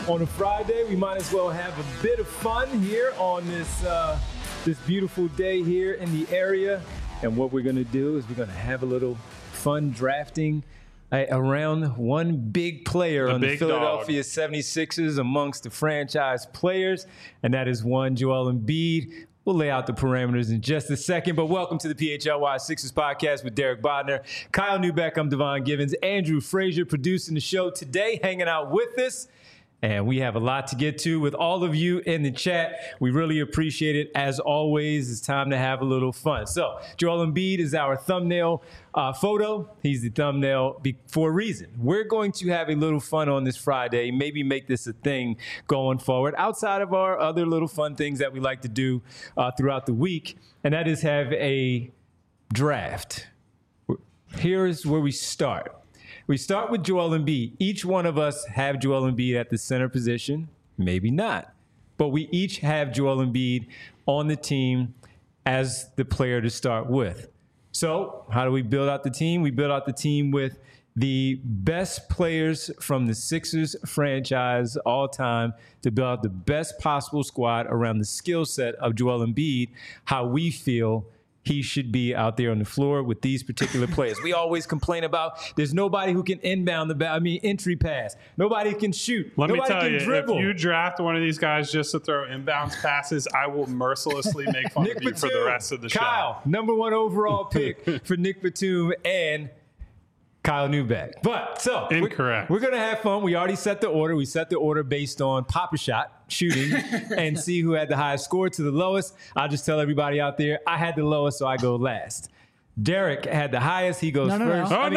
On a Friday, we might as well have a bit of fun here on this beautiful day here in the area. And what we're going to do is we're going to have a little fun drafting around one big player on the Philadelphia 76ers amongst the franchise players, and that is one Joel Embiid. We'll lay out the parameters in just a second, but welcome to the PHLY Sixers podcast with Derek Bodner, Kyle Neubeck, I'm Devon Givens, Andrew Frazier producing the show today, hanging out with us. And we have a lot to get to with all of you in the chat. We really appreciate it. As always, it's time to have a little fun. So Joel Embiid is our thumbnail photo. He's the thumbnail for a reason. We're going to have a little fun on this Friday, maybe make this a thing going forward outside of our other little fun things that we like to do throughout the week. And that is have a draft. Here's where we start. We start with Joel Embiid. Each one of us have Joel Embiid at the center position. Maybe not. But we each have Joel Embiid on the team as the player to start with. So how do we build out the team? We build out the team with the best players from the Sixers franchise all time to build out the best possible squad around the skill set of Joel Embiid, how we feel he should be out there on the floor with these particular players. We always complain about there's nobody who can inbound entry pass. Nobody can shoot. Let nobody me tell can you, dribble. if you draft one of these guys just to throw inbounds passes, I will mercilessly make fun of you for the rest of the show. Kyle, number 1 overall pick for Nick Batum and Kyle Neubeck. But so incorrect. We're gonna have fun. We already set the order. We set the order based on Pop-A-Shot shooting and see who had the highest score to the lowest. I'll just tell everybody out there, I had the lowest, so I go last. Derek had the highest. He goes first. Whoa.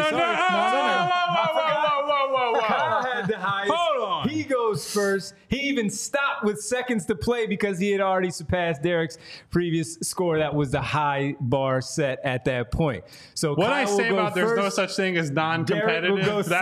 Kyle had the highest. Hold on. He goes first. He even stopped with seconds to play because he had already surpassed Derek's previous score. That was the high bar set at that point. So what Kyle I say about there's no such thing as non-competitive,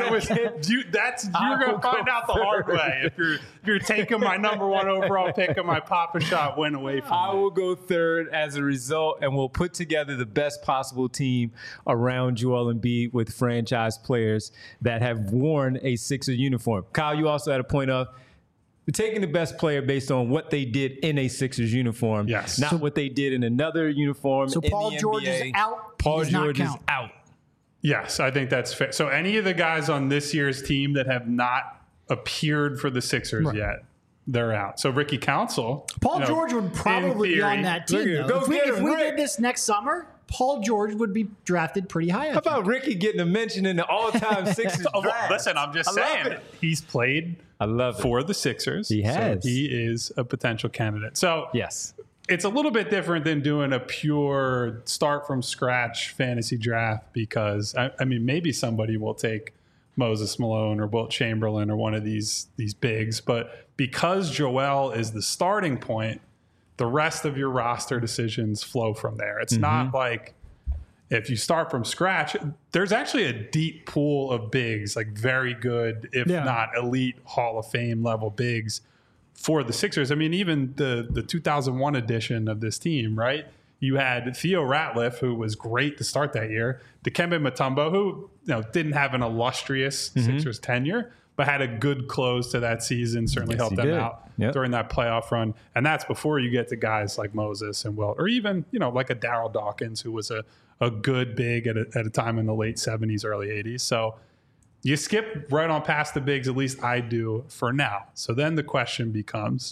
you're going to find out the hard way if you're taking my number 1 overall pick and my Pop-A-Shot win away from me. I will go third as a result, and we'll put together the best possible team around Joel Embiid with franchise players that have worn a Sixer uniform. Kyle, you also had a point of taking the best player based on what they did in a Sixers uniform, yes, not what they did in another uniform. So in Paul the George NBA. is out. Paul George is out. Yes, I think that's fair. So any of the guys on this year's team that have not appeared for the Sixers yet, they're out. So Ricky Council, Paul George would probably be on that team. If we did this next summer, Paul George would be drafted pretty high. How about Ricky getting a mention in the all-time Sixers draft? Listen, I'm just saying. He's played for the Sixers. He has. So he is a potential candidate. So yes, it's a little bit different than doing a pure start-from-scratch fantasy draft because, I mean, maybe somebody will take Moses Malone or Wilt Chamberlain or one of these bigs. But because Joel is the starting point, the rest of your roster decisions flow from there. It's not like if you start from scratch, there's actually a deep pool of bigs, like very good, if not elite Hall of Fame level bigs for the Sixers. I mean, even the 2001 edition of this team, right? You had Theo Ratliff, who was great to start that year. Dikembe Mutombo, who didn't have an illustrious Sixers tenure, but had a good close to that season, certainly helped them out during that playoff run. And that's before you get to guys like Moses and Wilt, or even, like a Darryl Dawkins, who was a good big at a time in the late 70s, early 80s. So you skip right on past the bigs, at least I do for now. So then the question becomes,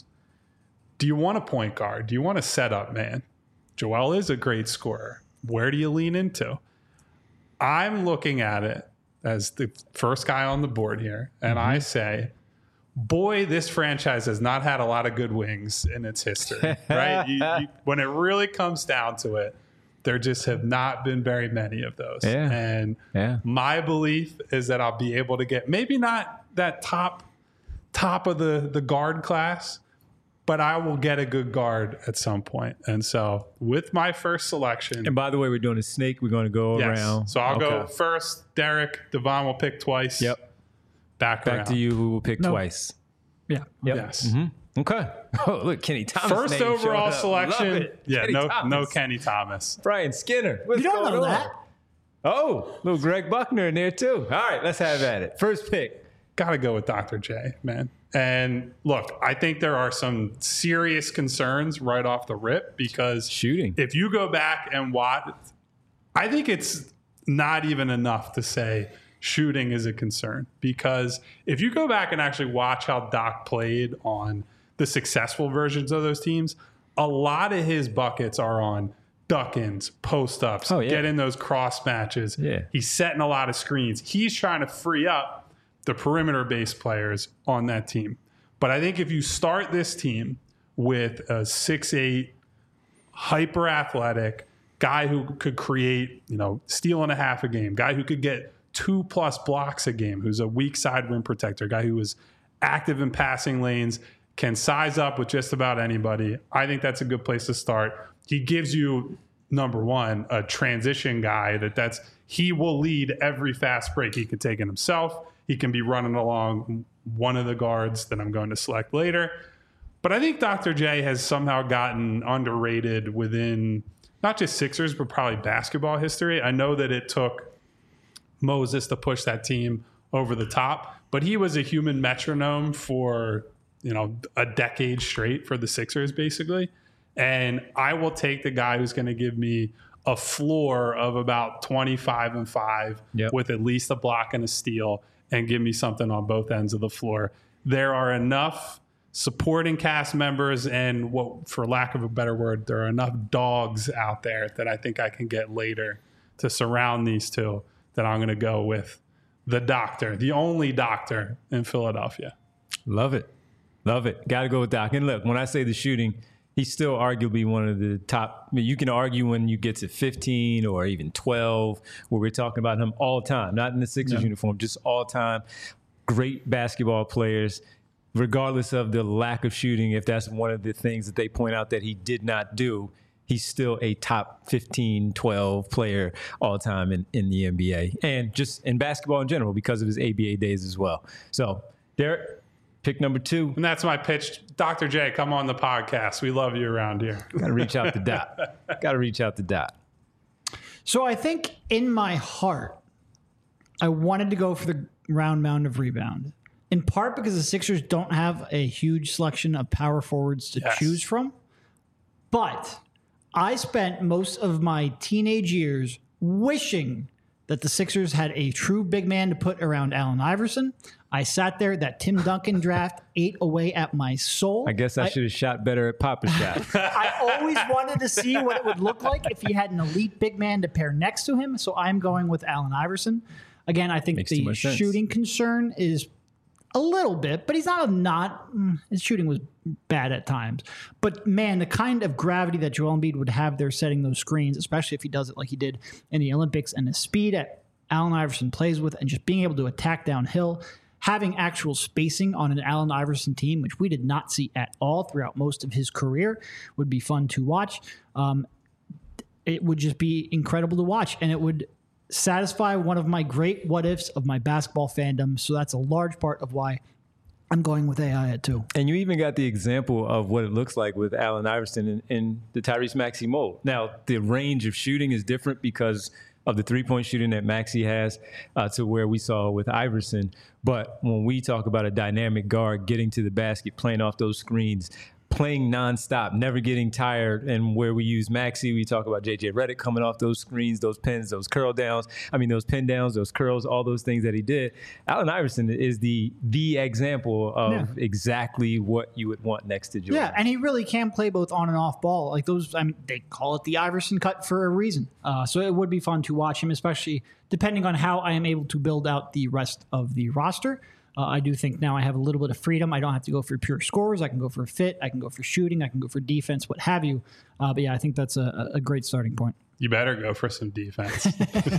do you want a point guard? Do you want a setup man? Joel is a great scorer. Where do you lean into? I'm looking at it as the first guy on the board here, and I say, boy, this franchise has not had a lot of good wings in its history, right? When it really comes down to it, there just have not been very many of those. And my belief is that I'll be able to get maybe not that top of the guard class, but I will get a good guard at some point. And so with my first selection. And by the way, we're doing a snake. We're going to go around. So I'll go first. Derek, Devon will pick twice. Yep. Back to you, who will pick twice. Yeah. Yep. Yes. Okay. Oh, look, Kenny Thomas. First overall selection. Yeah, Kenny no Kenny Thomas. Brian Skinner. What's you don't going know on? that. Oh, little Greg Buckner in there too. All right, let's have at it. First pick. Got to go with Dr. J, man. And look, I think there are some serious concerns right off the rip because shooting. If you go back and watch, I think it's not even enough to say shooting is a concern, because if you go back and actually watch how Doc played on the successful versions of those teams, a lot of his buckets are on duck-ins, post-ups, getting those cross matches. Yeah. He's setting a lot of screens. He's trying to free up the perimeter-based players on that team. But I think if you start this team with a 6'8", hyper-athletic guy who could create, steal and a half a game, guy who could get 2+ blocks a game, who's a weak side rim protector, guy who is active in passing lanes, can size up with just about anybody, I think that's a good place to start. He gives you, number one, a transition guy he will lead every fast break. He can take it himself. He can be running along one of the guards that I'm going to select later. But I think Dr. J has somehow gotten underrated within not just Sixers, but probably basketball history. I know that it took Moses to push that team over the top, but he was a human metronome for a decade straight for the Sixers, basically. And I will take the guy who's going to give me a floor of about 25-5 with at least a block and a steal, and give me something on both ends of the floor. There are enough supporting cast members and, for lack of a better word, there are enough dogs out there that I think I can get later to surround these two, that I'm going to go with the doctor, the only doctor in Philadelphia. Love it. Love it. Got to go with Doc. And look, when I say the shooting, he's still arguably one of the top. I mean, you can argue when you get to 15 or even 12, where we're talking about him all the time, not in the Sixers uniform, just all time. Great basketball players, regardless of the lack of shooting. If that's one of the things that they point out that he did not do, he's still a top 15, 12 player all time in the NBA, and just in basketball in general because of his ABA days as well. So, Derek, pick number 2. And that's my pitch. Dr. J, come on the podcast. We love you around here. Got to reach out to Dot. So I think in my heart, I wanted to go for the round mound of rebound, in part because the Sixers don't have a huge selection of power forwards to choose from. But I spent most of my teenage years wishing that the Sixers had a true big man to put around Allen Iverson. I sat there, that Tim Duncan draft ate away at my soul. I guess I should have shot better at Pop-A-Shot. I always wanted to see what it would look like if he had an elite big man to pair next to him, so I'm going with Allen Iverson. Again, I think the shooting concern is a little bit, but he's his shooting was bad at times. But man, the kind of gravity that Joel Embiid would have there setting those screens, especially if he does it like he did in the Olympics, and the speed that Allen Iverson plays with, and just being able to attack downhill, having actual spacing on an Allen Iverson team, which we did not see at all throughout most of his career, would be fun to watch. It would just be incredible to watch, and it would satisfy one of my great what-ifs of my basketball fandom. So that's a large part of why I'm going with AI at 2. And you even got the example of what it looks like with Allen Iverson in the Tyrese Maxey mold. Now, the range of shooting is different because of the three-point shooting that Maxey has to where we saw with Iverson. But when we talk about a dynamic guard getting to the basket, playing off those screens, playing nonstop, never getting tired, and where we use Maxey, we talk about J.J. Redick coming off those screens, those pins, those curl downs. I mean, those pin downs, those curls, all those things that he did. Allen Iverson is the example of exactly what you would want next to Jordan. Yeah, and he really can play both on and off ball. Like those, I mean, they call it the Iverson cut for a reason. So it would be fun to watch him, especially depending on how I am able to build out the rest of the roster. I do think now I have a little bit of freedom. I don't have to go for pure scores. I can go for fit. I can go for shooting. I can go for defense, what have you. But yeah, I think that's a great starting point. You better go for some defense.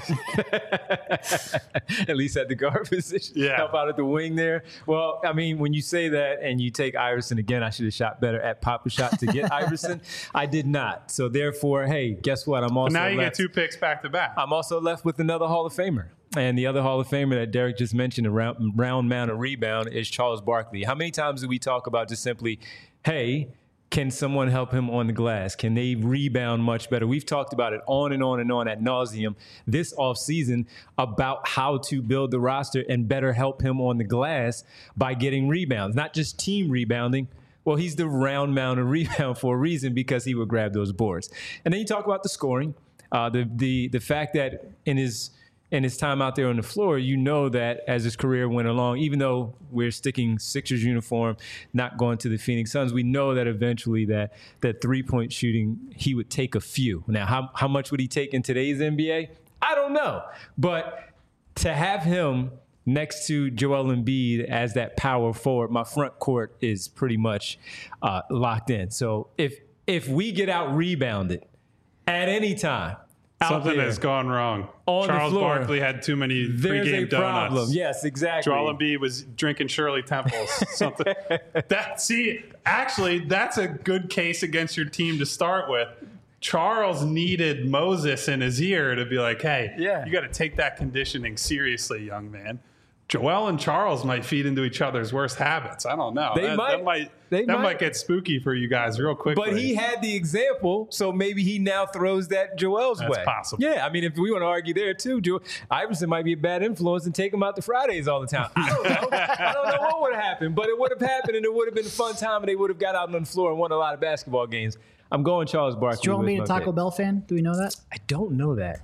At least at the guard position. Yeah. Help out at the wing there. Well, I mean, when you say that and you take Iverson again, I should have shot better at Pop-A-Shot to get Iverson. I did not. So therefore, hey, guess what? I'm also now you get 2 picks back to back. I'm also left with another Hall of Famer. And the other Hall of Famer that Derek just mentioned, a round mound of rebound, is Charles Barkley. How many times do we talk about just simply, hey, Can someone help him on the glass? Can they rebound much better? We've talked about it on and on and on ad nauseum this offseason about how to build the roster and better help him on the glass by getting rebounds, not just team rebounding. Well, he's the round mound rebound for a reason, because he would grab those boards. And then you talk about the scoring, the fact that in his time out there on the floor, you know that as his career went along, even though we're sticking Sixers uniform, not going to the Phoenix Suns, we know that eventually that three-point shooting, he would take a few. Now, how much would he take in today's NBA? I don't know. But to have him next to Joel Embiid as that power forward, my front court is pretty much locked in. So if we get out-rebounded at any time, something has gone wrong. Charles Barkley had too many pregame donuts. Problem. Yes, exactly. Joel Embiid was drinking Shirley Temples. Something. Actually, that's a good case against your team to start with. Charles needed Moses in his ear to be like, hey, you got to take that conditioning seriously, young man. Joel and Charles might feed into each other's worst habits. I don't know. That might get spooky for you guys real quickly. But he had the example, so maybe he now throws that Joel's way. That's possible. Yeah, I mean, if we want to argue there too, Iverson might be a bad influence and take him out to Fridays all the time. I don't know. I don't know what would have happened, but it would have happened, and it would have been a fun time, and they would have got out on the floor and won a lot of basketball games. I'm going Charles Barkley. Is Joel Embiid a Taco Bell fan? Do we know that? I don't know that.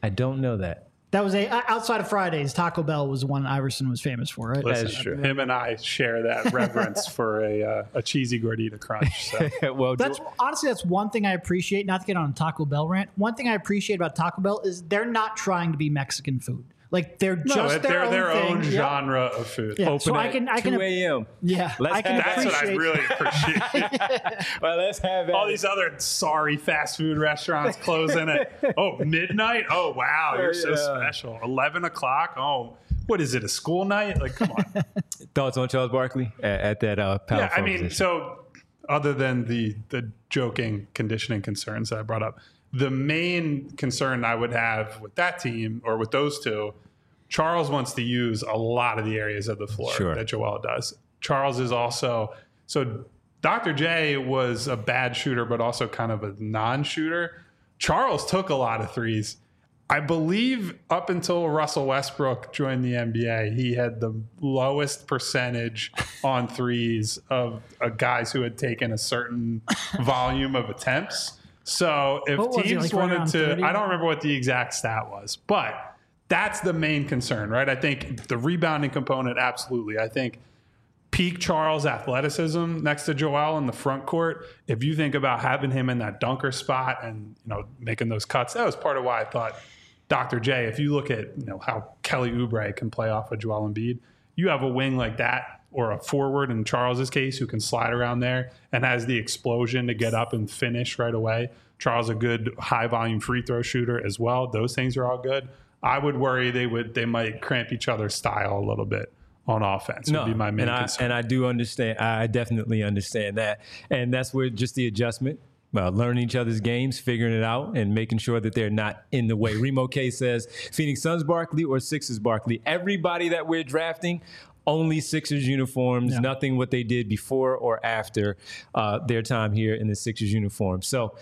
That was outside of Fridays. Taco Bell was one Iverson was famous for, right? That is true. Him and I share that reverence for a cheesy gordita crunch. So. Well, that's one thing I appreciate. Not to get on a Taco Bell rant. One thing I appreciate about Taco Bell is they're not trying to be Mexican food. Like they're their own genre of food. Yeah. Open so I can 2 a.m. Yeah, that's what I really appreciate. Well, let's have all these other sorry fast food restaurants closing at midnight. Oh wow, you're so special. 11 o'clock. Oh, what is it? A school night? Like, come on. Thoughts on Charles Barkley at that power? Yeah, I mean, position. So other than the joking conditioning concerns that I brought up, the main concern I would have with that team or with those two, Charles wants to use a lot of the areas of the floor that Joel does. Charles is also – so Dr. J was a bad shooter but also kind of a non-shooter. Charles took a lot of threes. I believe up until Russell Westbrook joined the NBA, he had the lowest percentage on threes of guys who had taken a certain volume of attempts. So if teams wanted to, I don't remember what the exact stat was, but that's the main concern, right? I think the rebounding component, absolutely. I think peak Charles athleticism next to Joel in the front court, if you think about having him in that dunker spot and, making those cuts, that was part of why I thought Dr. J, if you look at, how Kelly Oubre can play off of Joel Embiid, you have a wing like that or a forward in Charles's case who can slide around there and has the explosion to get up and finish right away. Charles a good high volume free throw shooter as well. Those things are all good. I would worry they might cramp each other's style a little bit on offense. Would be my main concern. And I do understand. I definitely understand that. And that's where just the adjustment, learning each other's games, figuring it out, and making sure that they're not in the way. Remo K says, Phoenix Suns Barkley or Sixers Barkley? Everybody that we're drafting, only Sixers uniforms, nothing what they did before or after their time here in the Sixers uniform. So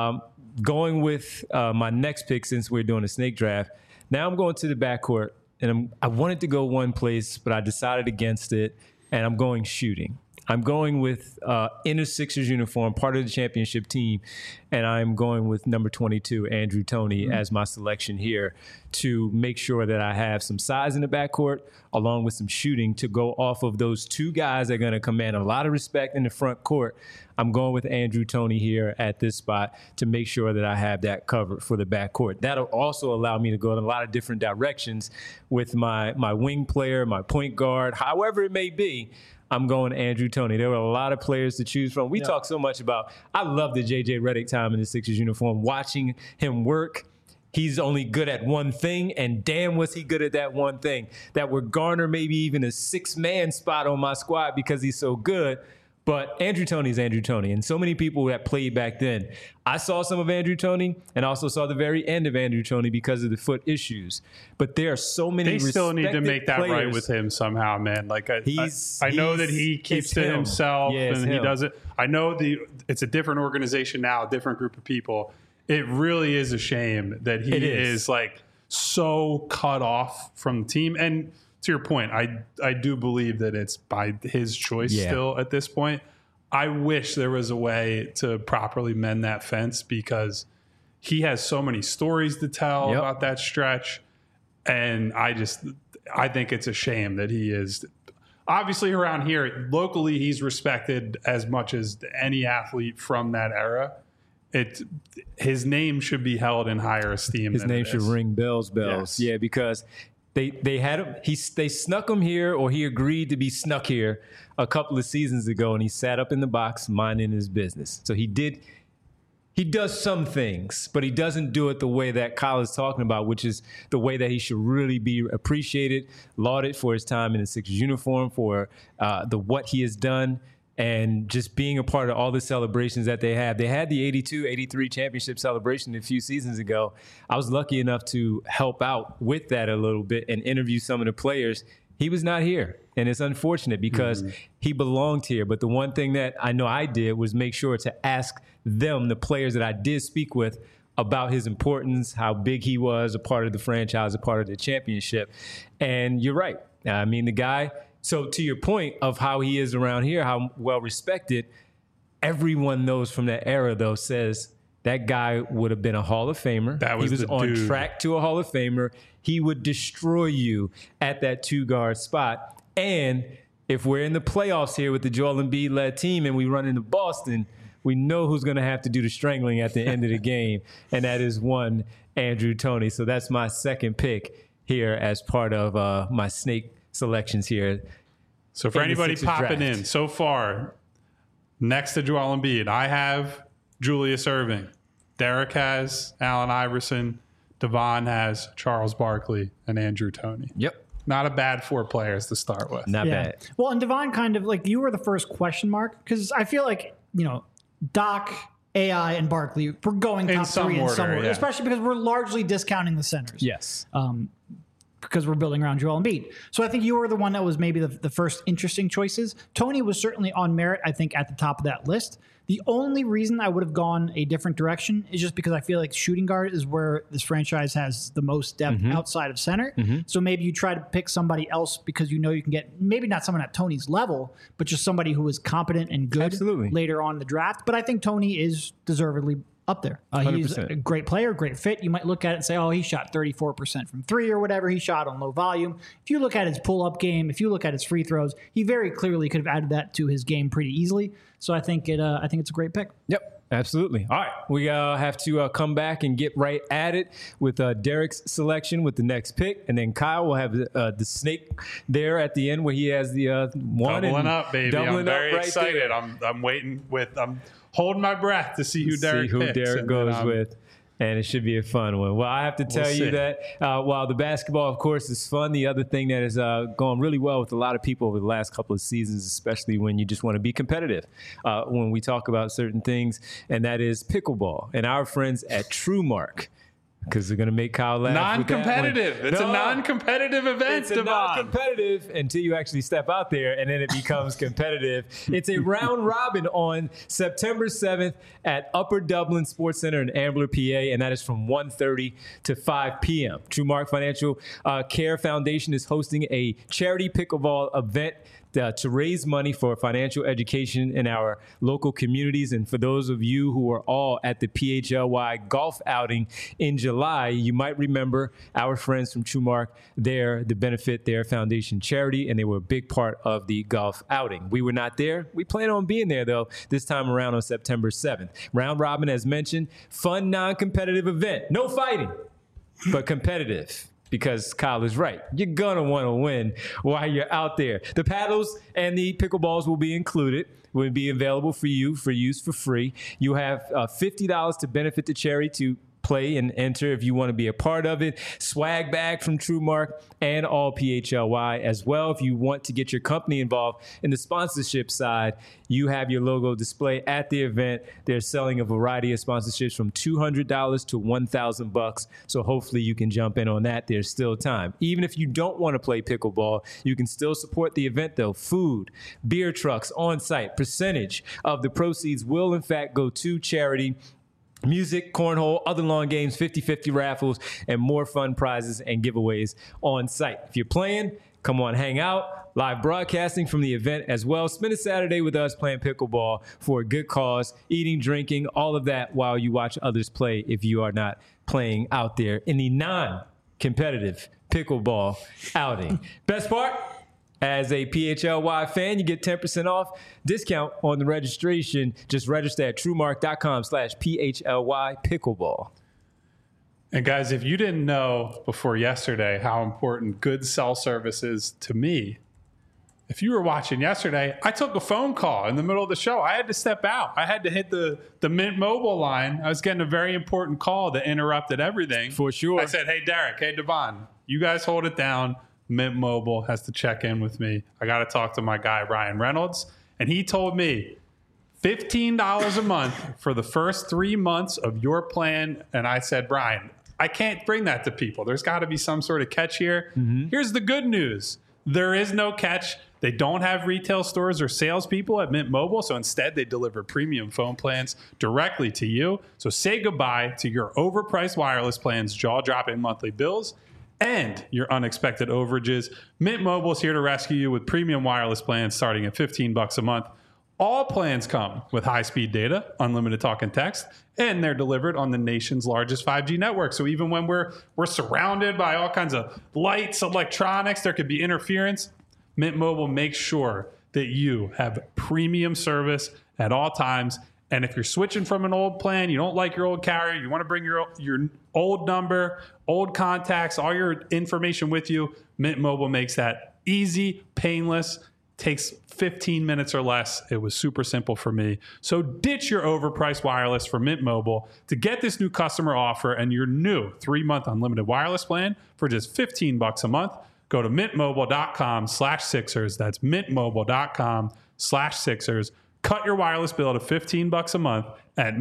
going with my next pick, since we're doing a snake draft, now I'm going to the backcourt, and I wanted to go one place, but I decided against it, and I'm going shooting. I'm going with in a Sixers uniform, part of the championship team, and I'm going with number 22, Andrew Toney, as my selection here to make sure that I have some size in the backcourt along with some shooting to go off of those two guys that are going to command a lot of respect in the front court. I'm going with Andrew Toney here at this spot to make sure that I have that covered for the backcourt. That'll also allow me to go in a lot of different directions with my wing player, my point guard, however it may be. I'm going Andrew Toney. There were a lot of players to choose from. We talk so much about, I love the J.J. Redick time in the Sixers uniform, watching him work. He's only good at one thing, and damn was he good at that one thing. That would garner maybe even a 6-man spot on my squad because he's so good. But Andrew Toney is Andrew Toney, and so many people that played back then. I saw some of Andrew Toney and also saw the very end of Andrew Toney because of the foot issues. But there are so many. They still need to make that right with him somehow, man. Like I know that he keeps to himself and he does it. I know it's a different organization now, a different group of people. It really is a shame that he is like so cut off from the team. And to your point, I do believe that it's by his choice still at this point. I wish there was a way to properly mend that fence because he has so many stories to tell about that stretch. And I think it's a shame that he is obviously around here locally. He's respected as much as any athlete from that era. His name should be held in higher esteem. His name should ring bells. Yes. Yeah, because they had him. They snuck him here, or he agreed to be snuck here a couple of seasons ago, and he sat up in the box minding his business. So he does some things, but he doesn't do it the way that Kyle is talking about, which is the way that he should really be appreciated, lauded for his time in the Sixers uniform, for what he has done, and just being a part of all the celebrations that they have. They had the 82-83 championship celebration a few seasons ago. I was lucky enough to help out with that a little bit and interview some of the players. He was not here, and it's unfortunate because he belonged here. But the one thing that I know I did was make sure to ask them, the players that I did speak with, about his importance, how big he was, a part of the franchise, a part of the championship. And you're right. I mean, the guy... So to your point of how he is around here, how well respected, everyone knows from that era, though, says that guy would have been a Hall of Famer. He was on track to a Hall of Famer. He would destroy you at that two-guard spot. And if we're in the playoffs here with the Joel Embiid-led team and we run into Boston, we know who's going to have to do the strangling at the end of the game, and that is one Andrew Toney. So that's my second pick here as part of my snake selections here. So for anybody popping in so far, next to Joel Embiid, I have Julius Erving. Derek has Allen Iverson. Devon has Charles Barkley and Andrew Toney. Yep. Not a bad 4 players to start with. Not bad. Well, and Devon kind of like you were the first question mark because I feel like, Doc, AI, and Barkley were going top 3 in some order, especially because we're largely discounting the centers. Yes. Because we're building around Joel Embiid. So I think you were the one that was maybe the first interesting choices. Toney was certainly on merit, I think, at the top of that list. The only reason I would have gone a different direction is just because I feel like shooting guard is where this franchise has the most depth outside of center. So maybe you try to pick somebody else because you can get maybe not someone at Toney's level, but just somebody who is competent and good later on in the draft. But I think Toney is deservedly up there. He's a great player, great fit. You might look at it and say, oh, he shot 34% from 3 or whatever he shot on low volume. If you look at his pull-up game, if you look at his free throws, he very clearly could have added that to his game pretty easily. So I think it's a great pick. Yep, absolutely. All right, we have to come back and get right at it with Derek's selection with the next pick, and then Kyle will have the snake there at the end where he has the one. Doubling up, baby. I'm very excited. I'm waiting with... I'm holding my breath to see who Derek goes with. And it should be a fun one. Well, I have to tell you that while the basketball, of course, is fun, the other thing that has gone really well with a lot of people over the last couple of seasons, especially when you just want to be competitive, when we talk about certain things, and that is pickleball. And our friends at TrueMark, because they're going to make Kyle laugh. Non-competitive. It's a non-competitive event, It's non-competitive until you actually step out there, and then it becomes competitive. It's a round robin on September 7th at Upper Dublin Sports Center in Ambler, PA, and that is from 1:30 to 5 p.m. TrueMark Financial Care Foundation is hosting a charity pickleball event to raise money for financial education in our local communities. And for those of you who are all at the PHLY golf outing in July, you might remember our friends from TrueMark there to benefit their foundation charity, and they were a big part of the golf outing. We were not there. We plan on being there, though, this time around on September 7th. Round robin, as mentioned, fun, non-competitive event. No fighting, but competitive. Because Kyle is right. You're going to want to win while you're out there. The paddles and the pickleballs will be included, will be available for you for use for free. You have $50 to benefit the charity to play and enter if you want to be a part of it. Swag bag from TrueMark and all PHLY as well. If you want to get your company involved in the sponsorship side, you have your logo display at the event. They're selling a variety of sponsorships from $200 to $1,000. So hopefully you can jump in on that. There's still time. Even if you don't want to play pickleball, you can still support the event though. Food, beer trucks on site. Percentage of the proceeds will in fact go to charity. Music, cornhole, other lawn games, 50-50 raffles, and more fun prizes and giveaways on site. If you're playing, come on, hang out. Live broadcasting from the event as well. Spend a Saturday with us playing pickleball for a good cause, eating, drinking, all of that while you watch others play if you are not playing out there in the non-competitive pickleball outing. Best part? As a PHLY fan, you get 10% off discount on the registration. Just register at truemark.com/PHLY pickleball. And guys, if you didn't know before yesterday how important good cell service is to me, if you were watching yesterday, I took a phone call in the middle of the show. I had to step out. I had to hit the Mint Mobile line. I was getting a very important call that interrupted everything. For sure. I said, hey, Derek, hey, Devon, you guys hold it down. Mint Mobile has to check in with me. I got to talk to my guy, Ryan Reynolds. And he told me $15 a month for the first 3 months of your plan. And I said, Brian, I can't bring that to people. There's got to be some sort of catch here. Mm-hmm. Here's the good news. There is no catch. They don't have retail stores or salespeople at Mint Mobile. So instead, they deliver premium phone plans directly to you. So say goodbye to your overpriced wireless plans, jaw-dropping monthly bills, and your unexpected overages. Mint Mobile is here to rescue you with premium wireless plans starting at $15 a month. All plans come with high-speed data, unlimited talk and text, and they're delivered on the nation's largest 5G network. So even when we're surrounded by all kinds of lights, electronics, there could be interference, Mint Mobile makes sure that you have premium service at all times. And if you're switching from an old plan, you don't like your old carrier, you want to bring your old number, old contacts, all your information with you, Mint Mobile makes that easy, painless, takes 15 minutes or less. It was super simple for me. So ditch your overpriced wireless for Mint Mobile to get this new customer offer and your new 3-month unlimited wireless plan for just $15 a month. Go to mintmobile.com/Sixers. That's mintmobile.com/Sixers. Cut your wireless bill to $15 a month at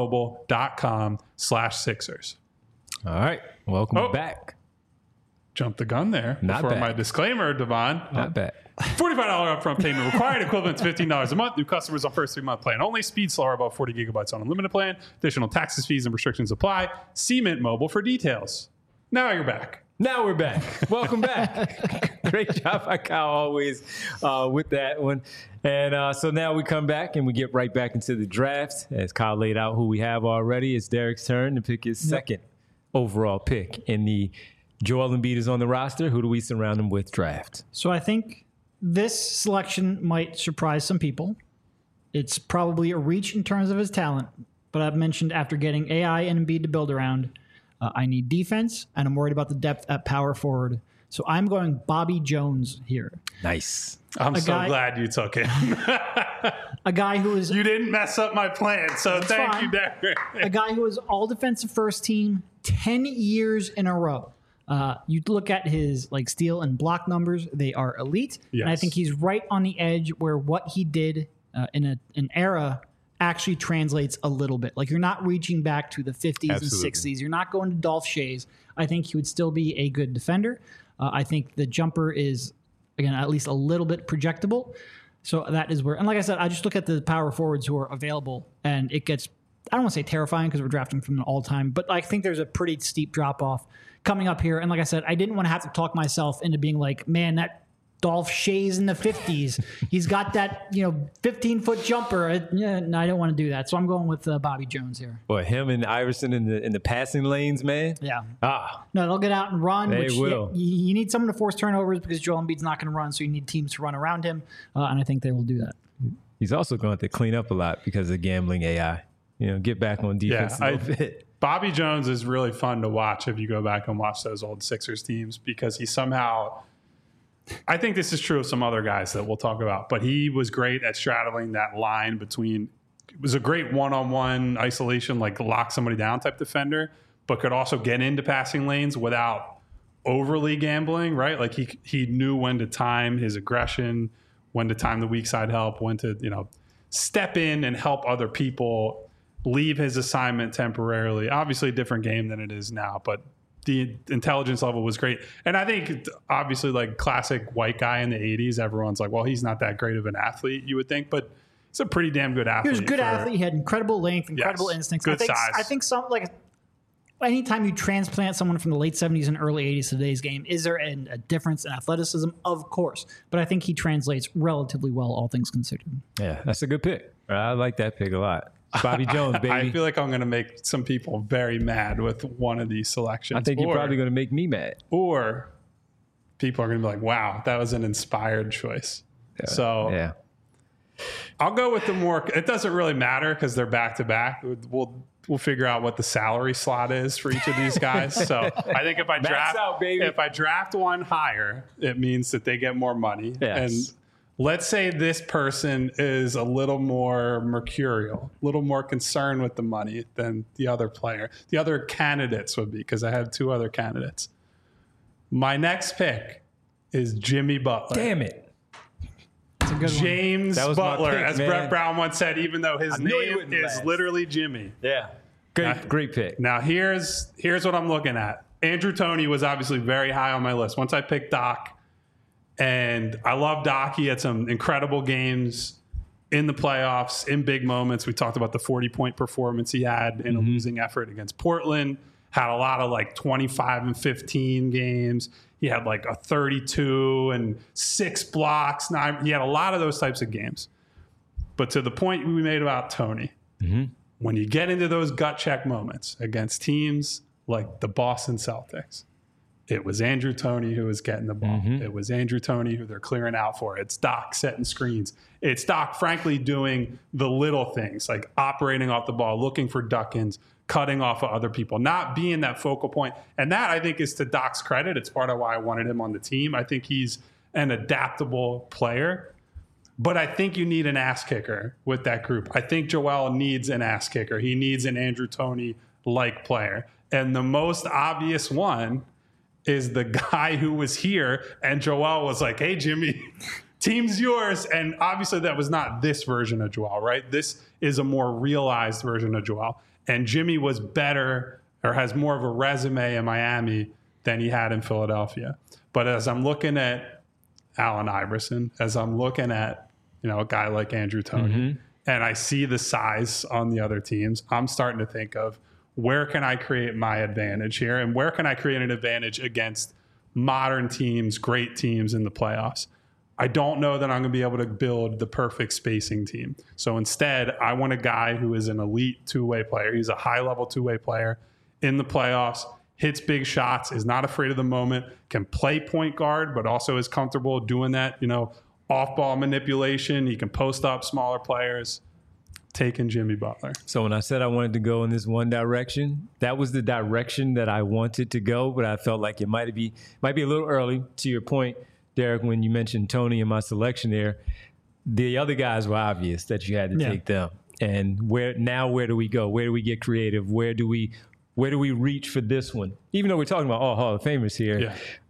mintmobile.com/Sixers. All right. Welcome back. Jumped the gun there. Not before bad. My disclaimer, Devon. Not bad. $45 upfront payment required, equivalent to $15 a month. New customers on first 3-month plan only. Speed slower, about 40 gigabytes on unlimited plan. Additional taxes, fees, and restrictions apply. See Mint Mobile for details. Now you're back. Now we're back. Welcome back. Great job by Kyle always with that one. And so now we come back and we get right back into the draft. As Kyle laid out who we have already, it's Derek's turn to pick his second overall pick in the Joel Embiid is on the roster. Who do we surround him with draft? So I think this selection might surprise some people. It's probably a reach in terms of his talent, but I've mentioned after getting AI and Embiid to build around, I need defense, and I'm worried about the depth at power forward. So I'm going Bobby Jones here. Nice. I'm glad you took him. A guy who is... You didn't mess up my plan, so thank you, Derek. A guy who is all defensive first team 10 years in a row. You look at his steal and block numbers; they are elite. Yes. And I think he's right on the edge where what he did in an era actually translates a little bit. Like, you're not reaching back to the 50s and 60s. You're not going to Dolph Shays. I think he would still be a good defender. I think the jumper is, again, at least a little bit projectable. So that is where, and like I said, I just look at the power forwards who are available, and it gets, I don't want to say terrifying because we're drafting from an all-time, but I think there's a pretty steep drop-off coming up here. And like I said, I didn't want to have to talk myself into being like, man, that Dolph Shays in the 50s, he's got that 15-foot jumper. No, I don't want to do that. So I'm going with Bobby Jones here. Boy, him and Iverson in the passing lanes, man. Yeah. No, they'll get out and run. They will. You need someone to force turnovers because Joel Embiid's not going to run, so you need teams to run around him, and I think they will do that. He's also going to have to clean up a lot because of gambling AI. Get back on defense a little bit. Bobby Jones is really fun to watch if you go back and watch those old Sixers teams because he somehow, I think this is true of some other guys that we'll talk about, but he was great at straddling that line between, it was a great one-on-one isolation, like lock somebody down type defender, but could also get into passing lanes without overly gambling, right? Like he knew when to time his aggression, when to time the weak side help, when to, step in and help other people, leave his assignment temporarily. Obviously a different game than it is now, but the intelligence level was great. And I think obviously like classic white guy in the 80s, everyone's like, well, he's not that great of an athlete, you would think, but he's a pretty damn good athlete. He was a good athlete. He had incredible length, incredible instincts. Good size. I think anytime you transplant someone from the late 70s and early 80s to today's game, is there a difference in athleticism? Of course. But I think he translates relatively well, all things considered. Yeah, that's a good pick. I like that pick a lot. Bobby Jones, baby. I feel like I'm going to make some people very mad with one of these selections. I think you're probably going to make me mad. Or people are going to be like, wow, that was an inspired choice. Yeah. So I'll go with the more, it doesn't really matter because they're back to back. We'll figure out what the salary slot is for each of these guys. So I think if I draft one higher, it means that they get more money. Yes. And let's say this person is a little more mercurial, a little more concerned with the money than the other player. The other candidates would be, because I have two other candidates. My next pick is Jimmy Butler. Damn it. James Butler, pick, as man. Brett Brown once said, even though his name is literally Jimmy. Yeah. Great pick. Now, here's what I'm looking at. Andrew Toney was obviously very high on my list. Once I picked Doc, and I love Doc. He had some incredible games in the playoffs, in big moments. We talked about the 40-point performance he had in a losing effort against Portland. Had a lot of like 25 and 15 games. He had like a 32 and 6 blocks. He had a lot of those types of games. But to the point we made about Toney, when you get into those gut check moments against teams like the Boston Celtics, it was Andrew Toney who was getting the ball. It was Andrew Toney who they're clearing out for. It's Doc setting screens. It's Doc, frankly, doing the little things like operating off the ball, looking for duck-ins, cutting off of other people, not being that focal point. And that, I think, is to Doc's credit. It's part of why I wanted him on the team. I think he's an adaptable player. But I think you need an ass kicker with that group. I think Joel needs an ass kicker. He needs an Andrew Toney-like player. And the most obvious one is the guy who was here, and Joel was like, hey, Jimmy, team's yours. And obviously that was not this version of Joel, right? This is a more realized version of Joel. And Jimmy was better or has more of a resume in Miami than he had in Philadelphia. But as I'm looking at Allen Iverson, as I'm looking at, a guy like Andrew Toney, and I see the size on the other teams, I'm starting to think of, where can I create my advantage here? And where can I create an advantage against modern teams, great teams in the playoffs? I don't know that I'm going to be able to build the perfect spacing team. So instead, I want a guy who is an elite two-way player. He's a high-level two-way player in the playoffs, hits big shots, is not afraid of the moment, can play point guard, but also is comfortable doing that, off-ball manipulation. He can post up smaller players. Taking Jimmy Butler. So when I said I wanted to go in this one direction, that was the direction that I wanted to go, but I felt like it might be a little early. To your point, Derek, when you mentioned Toney in my selection there, the other guys were obvious that you had to take them. And where do we go? Where do we get creative? Where do we reach for this one? Even though we're talking about all Hall of Famers here,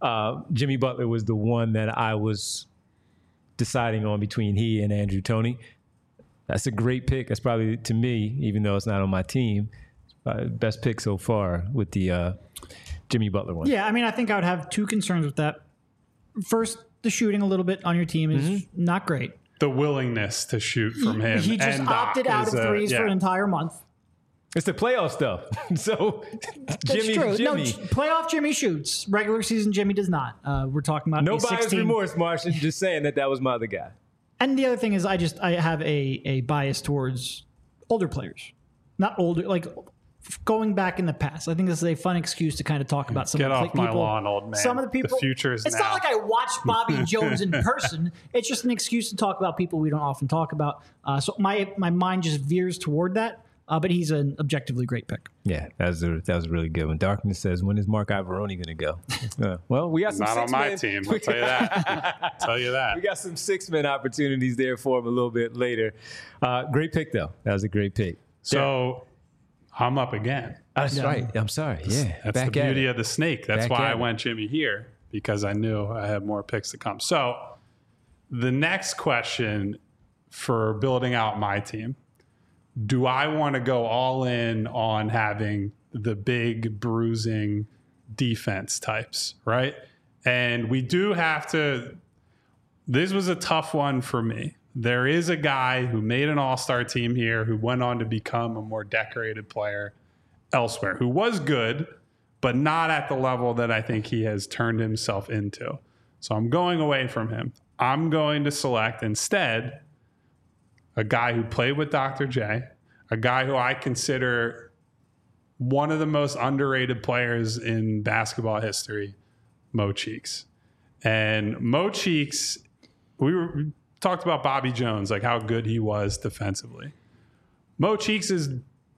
Jimmy Butler was the one that I was deciding on between he and Andrew Toney. That's a great pick. That's probably, to me, even though it's not on my team, best pick so far with the Jimmy Butler one. Yeah, I think I would have two concerns with that. First, the shooting a little bit on your team is not great. The willingness to shoot from him. He just opted out of threes for an entire month. It's the playoff stuff. So Jimmy. No, playoff Jimmy shoots. Regular season Jimmy does not. We're talking about no bias remorse, Martian. Just saying that was my other guy. And the other thing is I have a bias towards older players. Not older, like going back in the past. I think this is a fun excuse to kind of talk about some of the people. Get off my lawn, old man. Some of the people. The future is It's now. not like I watched Bobby Jones in person. It's just an excuse to talk about people we don't often talk about. So my mind just veers toward that. But he's an objectively great pick. Yeah, that was a really good one. Darkness says, when is Mark Ivoroni going to go? Well, we got some not on my team. I'll tell you that. Tell you that. We got some 6-man opportunities there for him a little bit later. Great pick, though. That was a great pick. So I'm up again. That's right. I'm sorry. Yeah. That's the beauty of the snake. That's why I went Jimmy here, because I knew I had more picks to come. So the next question for building out my team, do I want to go all in on having the big bruising defense types, right? And we do have to, this was a tough one for me. There is a guy who made an all-star team here who went on to become a more decorated player elsewhere, who was good, but not at the level that I think he has turned himself into. So I'm going away from him. I'm going to select instead a guy who played with Dr. J, a guy who I consider one of the most underrated players in basketball history, Mo Cheeks. And Mo Cheeks, we talked about Bobby Jones, like how good he was defensively. Mo Cheeks is,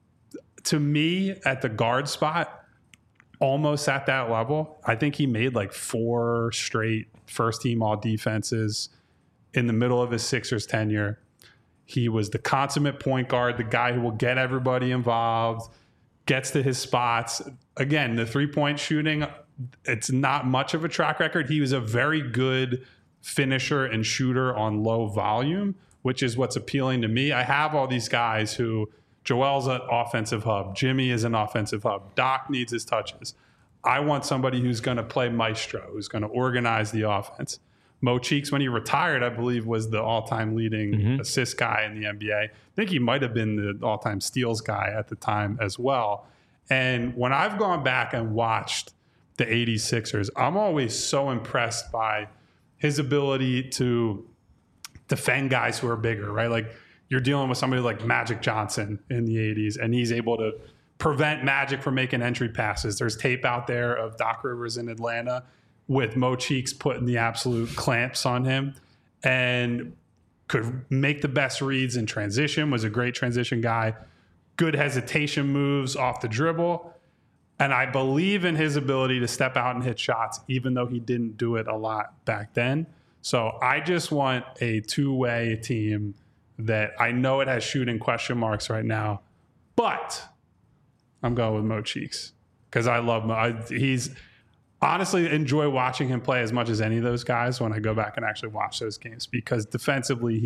to me, at the guard spot, almost at that level. I think he made like 4 straight first-team all-defenses in the middle of his Sixers tenure. He was the consummate point guard, the guy who will get everybody involved, gets to his spots. Again, the three-point shooting, it's not much of a track record. He was a very good finisher and shooter on low volume, which is what's appealing to me. I have all these guys who, Joel's an offensive hub, Jimmy is an offensive hub, Doc needs his touches. I want somebody who's going to play maestro, who's going to organize the offense. Mo Cheeks, when he retired, I believe, was the all-time leading assist guy in the NBA. I think he might have been the all-time steals guy at the time as well. And when I've gone back and watched the 86ers, I'm always so impressed by his ability to defend guys who are bigger, right? Like you're dealing with somebody like Magic Johnson in the 80s, and he's able to prevent Magic from making entry passes. There's tape out there of Doc Rivers in Atlanta with Mo Cheeks putting the absolute clamps on him and could make the best reads in transition, was a great transition guy, good hesitation moves off the dribble. And I believe in his ability to step out and hit shots, even though he didn't do it a lot back then. So I just want a two-way team that I know it has shooting question marks right now, but I'm going with Mo Cheeks because I love Mo. He's honestly enjoy watching him play as much as any of those guys when I go back and actually watch those games, because defensively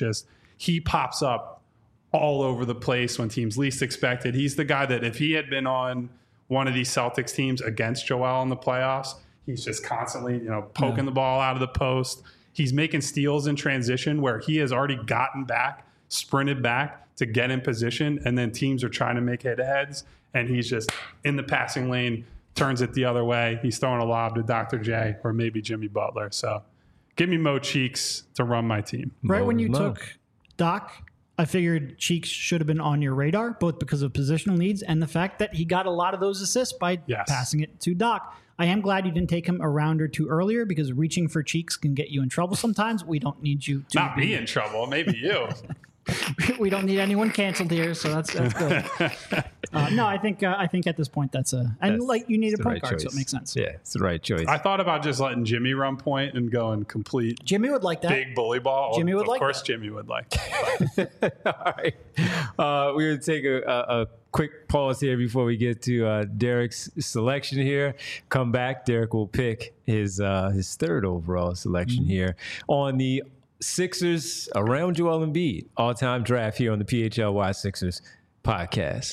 he pops up all over the place when teams least expect it. He's the guy that if he had been on one of these Celtics teams against Joel in the playoffs, he's just constantly, poking the ball out of the post. He's making steals in transition where he has already gotten back, sprinted back to get in position, and then teams are trying to make head-to-heads, and he's just in the passing lane, turns it the other way. He's throwing a lob to Dr. J or maybe Jimmy Butler. So give me Mo Cheeks to run my team. Right when you took Doc, I figured Cheeks should have been on your radar, both because of positional needs and the fact that he got a lot of those assists by passing it to Doc. I am glad you didn't take him a round or two earlier, because reaching for Cheeks can get you in trouble sometimes. We don't need you to not be in trouble. Maybe you. We don't need anyone canceled here, so that's good. No, I think at this point you need a point guard, so it makes sense. Yeah, it's the right choice. I thought about just letting Jimmy run point and going complete. Jimmy would like that. Big bully ball. Jimmy would like that. Of course, Jimmy would like that. All right. We're going to take a quick pause here before we get to Derek's selection here. Come back. Derek will pick his third overall selection here on the Sixers around Joel Embiid all-time draft here on the PHLY Sixers podcast.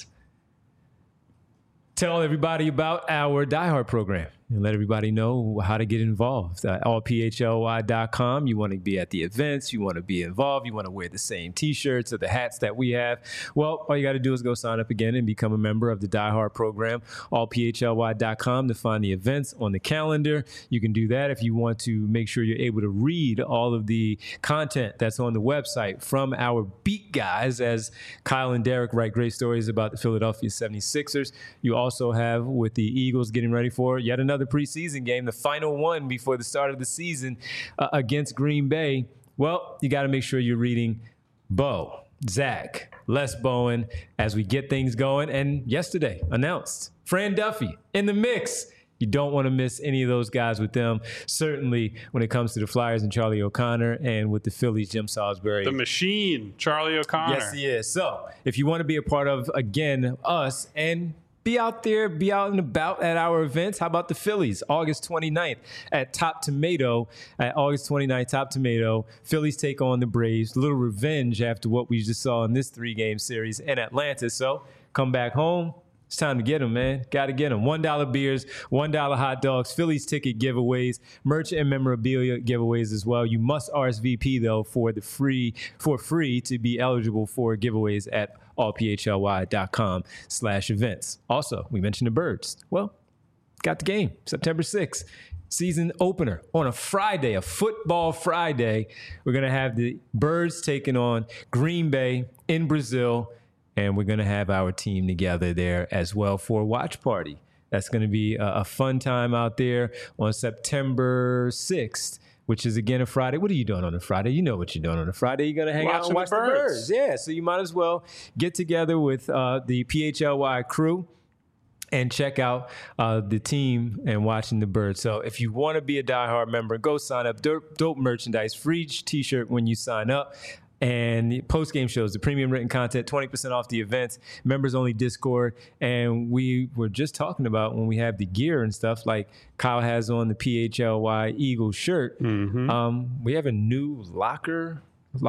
Tell everybody about our Die Hard program and let everybody know how to get involved. Allphly.com. You want to be at the events. You want to be involved. You want to wear the same T-shirts or the hats that we have. Well, all you got to do is go sign up again and become a member of the Die Hard program. Allphly.com to find the events on the calendar. You can do that if you want to make sure you're able to read all of the content that's on the website from our beat guys, as Kyle and Derek write great stories about the Philadelphia 76ers. You also have, with the Eagles getting ready for yet another preseason game, the final one before the start of the season against Green Bay. Well, you got to make sure you're reading Bo, Zach, Les Bowen as we get things going. And yesterday announced Fran Duffy in the mix. You don't want to miss any of those guys with them. Certainly when it comes to the Flyers and Charlie O'Connor, and with the Phillies, Jim Salisbury. The machine, Charlie O'Connor. Yes, he is. So if you want to be a part of, again, us and be out there, be out and about at our events. How about the Phillies? August 29th at Top Tomato. At August 29th, Top Tomato. Phillies take on the Braves. A little revenge after what we just saw in this 3-game series in Atlanta. So come back home. It's time to get them, man. Got to get them. $1 beers, $1 hot dogs, Phillies ticket giveaways, merch and memorabilia giveaways as well. You must RSVP, though, for free to be eligible for giveaways at allphly.com/events. Also, we mentioned the Birds. Well, got the game, September 6th. Season opener on a Friday, a football Friday. We're going to have the Birds taking on Green Bay in Brazil, and we're going to have our team together there as well for a watch party. That's going to be a fun time out there on September 6th. Which is, again, a Friday. What are you doing on a Friday? You know what you're doing on a Friday. You're going to hang out and watch the Birds. Yeah, so you might as well get together with the PHLY crew and check out the team and watching the Birds. So if you want to be a diehard member, go sign up. Dope merchandise, free T-shirt when you sign up. And the post-game shows, the premium written content, 20% off the events, members-only Discord. And we were just talking about when we have the gear and stuff, like Kyle has on the PHLY Eagle shirt. Mm-hmm. We have a new locker,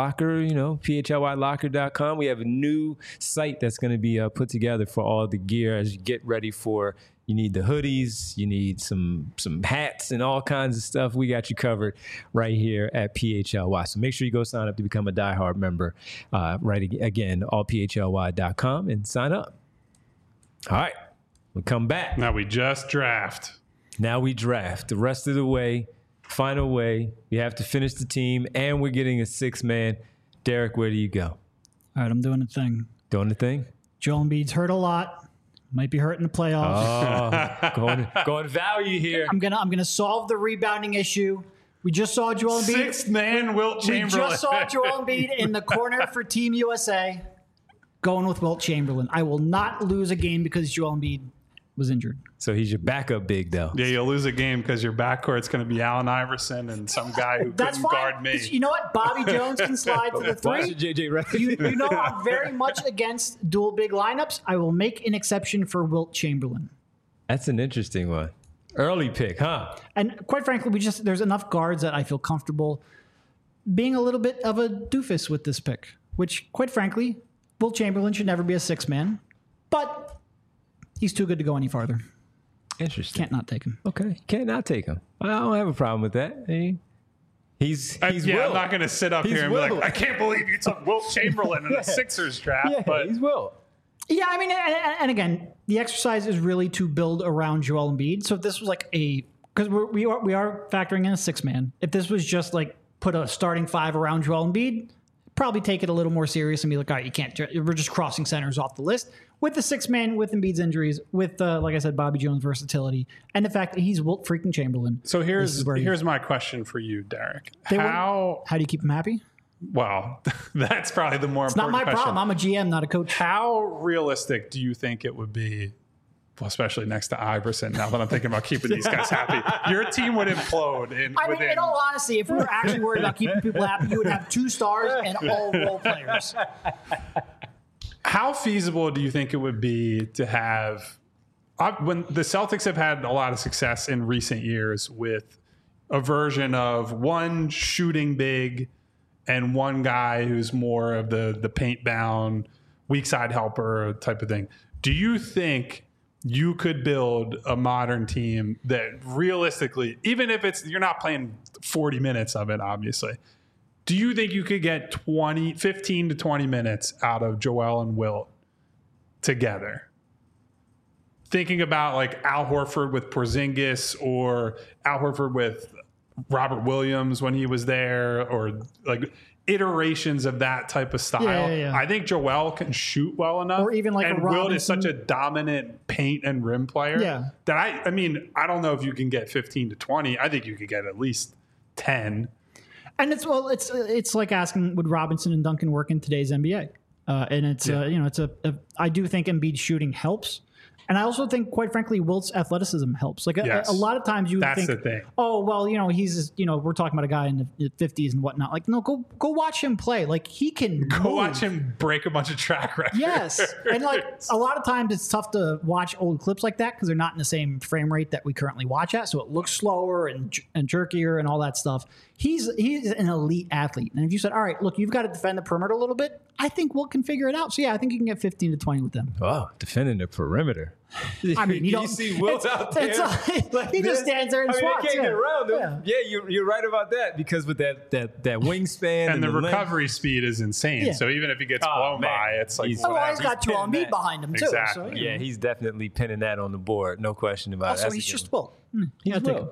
PHLYlocker.com. We have a new site that's going to be put together for all the gear as you get ready for. You need the hoodies, you need some hats and all kinds of stuff. We got you covered right here at PHLY. So make sure you go sign up to become a diehard member. Again, allphly.com and sign up. All right, we'll come back. Now we just draft. Now we draft. The rest of the way, final way, we have to finish the team, and we're getting a 6-man. Derek, where do you go? All right, I'm doing a thing. Doing the thing? Joel Embiid's hurt a lot. Might be hurt in the playoffs. Oh, going value here. I'm gonna solve the rebounding issue. We just saw Joel Embiid. 6th-man Wilt Chamberlain. We just saw Joel Embiid in the corner for Team USA. Going with Wilt Chamberlain. I will not lose a game because Joel Embiid was injured. So he's your backup big, though. Yeah, you'll lose a game because your backcourt's going to be Allen Iverson and some guy who couldn't guard me. You know what? Bobby Jones can slide to the 3. JJ, right? You know I'm very much against dual big lineups. I will make an exception for Wilt Chamberlain. That's an interesting one. Early pick, huh? And quite frankly, there's enough guards that I feel comfortable being a little bit of a doofus with this pick, which, quite frankly, Wilt Chamberlain should never be a 6-man, but he's too good to go any farther. Interesting. Can't not take him. Okay. Can't not take him. I don't have a problem with that. He's I'm Wilt. not going to sit up here and be like, I can't believe you took Wilt Chamberlain in the Sixers draft. Yeah, but he's Wilt. Yeah, I mean, and again, the exercise is really to build around Joel Embiid. So if this was like because we are factoring in a 6-man. If this was just like put a starting 5 around Joel Embiid, probably take it a little more serious and be like, all right, you can't. We're just crossing centers off the list. With the 6-man, with Embiid's injuries, with like I said, Bobby Jones' versatility, and the fact that he's Wilt freaking Chamberlain. So here's my question for you, Derek. How do you keep him happy? Well, that's probably the more important question. It's not my problem. I'm a GM, not a coach. How realistic do you think it would be, well, especially next to Iverson, now that I'm thinking about keeping these guys happy? Your team would implode. In all honesty, if we were actually worried about keeping people happy, you would have 2 stars and all role players. How feasible do you think it would be to have, when the Celtics have had a lot of success in recent years with a version of one shooting big and one guy who's more of the paint bound, weak side helper type of thing. Do you think you could build a modern team that realistically, even if you're not playing 40 minutes of it, obviously, do you think you could get 15 to 20 minutes out of Joel and Wilt together? Thinking about like Al Horford with Porzingis or Al Horford with Robert Williams when he was there, or like iterations of that type of style. Yeah. I think Joel can shoot well enough. Or even like and Wilt is such a dominant paint and rim player that I mean, I don't know if you can get 15 to 20. I think you could get at least 10. And it's like asking, would Robinson and Duncan work in today's NBA? And I do think Embiid shooting helps. And I also think, quite frankly, Wilt's athleticism helps. Like a lot of times you would think, the thing. oh, well, he's, we're talking about a guy in the 50s and whatnot. Like, no, go watch him play. Like, he can watch him break a bunch of track records. Yes. And like a lot of times it's tough to watch old clips like that because they're not in the same frame rate that we currently watch at. So it looks slower and jerkier and all that stuff. He's an elite athlete. And if you said, all right, look, you've got to defend the perimeter a little bit, I think Wilt can figure it out. So, yeah, I think you can get 15 to 20 with them. Oh, defending the perimeter. I mean, you see Wilt out there. He just stands there and swats. He can't get around him. Yeah, you're right about that because with that wingspan and the recovery speed is insane. Yeah. So even if he gets blown by, it's like he's got Joel Embiid behind him too. Exactly. So, yeah, he's definitely pinning that on the board. No question about it. Also, he's just Wilt. He's Wilt.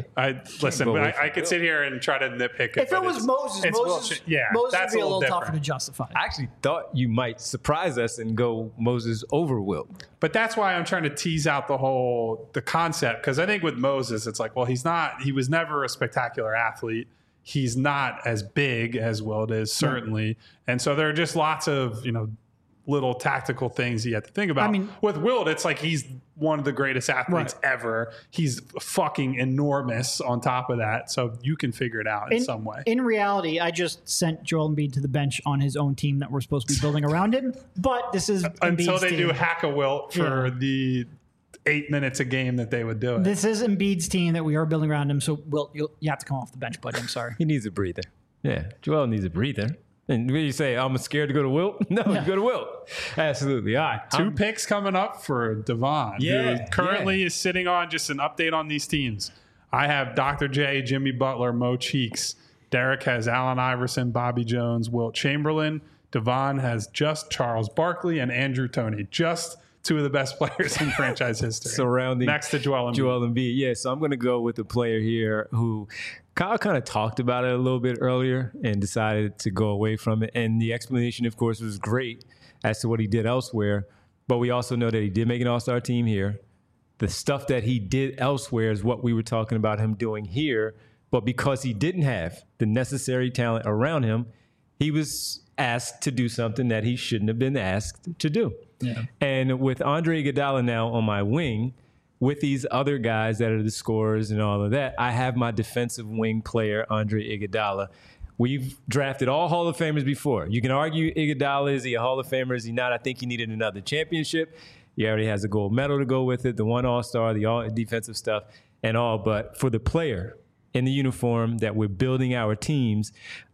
I could sit here and try to nitpick it. If it was Moses would be a little tougher to justify. I actually thought you might surprise us and go Moses over Wilt. But that's why I'm trying to tease out the concept, because I think with Moses, it's like, well, he was never a spectacular athlete. He's not as big as Wilt is, certainly. Right. And so there are just lots of, little tactical things you have to think about. I mean, with Wilt, it's like he's one of the greatest athletes ever. He's fucking enormous on top of that. So you can figure it out in some way. In reality, I just sent Joel Embiid to the bench on his own team that we're supposed to be building around him. But this is until they team. do hack a Wilt for the 8 minutes a game that they would do it. This is Embiid's team that we are building around him. So Wilt, you have to come off the bench, buddy. I'm sorry. He needs a breather. Yeah, Joel needs a breather. And when you say, I'm scared to go to Wilt? No, you go to Wilt. Absolutely. All right. 2 picks coming up for Devon, who currently is sitting on just an update on these teams. I have Dr. J, Jimmy Butler, Mo Cheeks. Derek has Allen Iverson, Bobby Jones, Wilt Chamberlain. Devon has just Charles Barkley and Andrew Toney. Just 2 of the best players in franchise history. Surrounding next to Joel Embiid. Joel Embiid. Yeah, so I'm going to go with a player here who Kyle kind of talked about it a little bit earlier and decided to go away from it. And the explanation, of course, was great as to what he did elsewhere. But we also know that he did make an all-star team here. The stuff that he did elsewhere is what we were talking about him doing here. But because he didn't have the necessary talent around him, he was asked to do something that he shouldn't have been asked to do. Yeah. And with Andre Iguodala now on my wing, with these other guys that are the scorers and all of that, I have my defensive wing player, Andre Iguodala. We've drafted all Hall of Famers before. You can argue Iguodala, is he a Hall of Famer? Is he not? I think he needed another championship. He already has a gold medal to go with it, the 1 All-Star, the all defensive stuff and all. But for the player in the uniform that we're building our teams,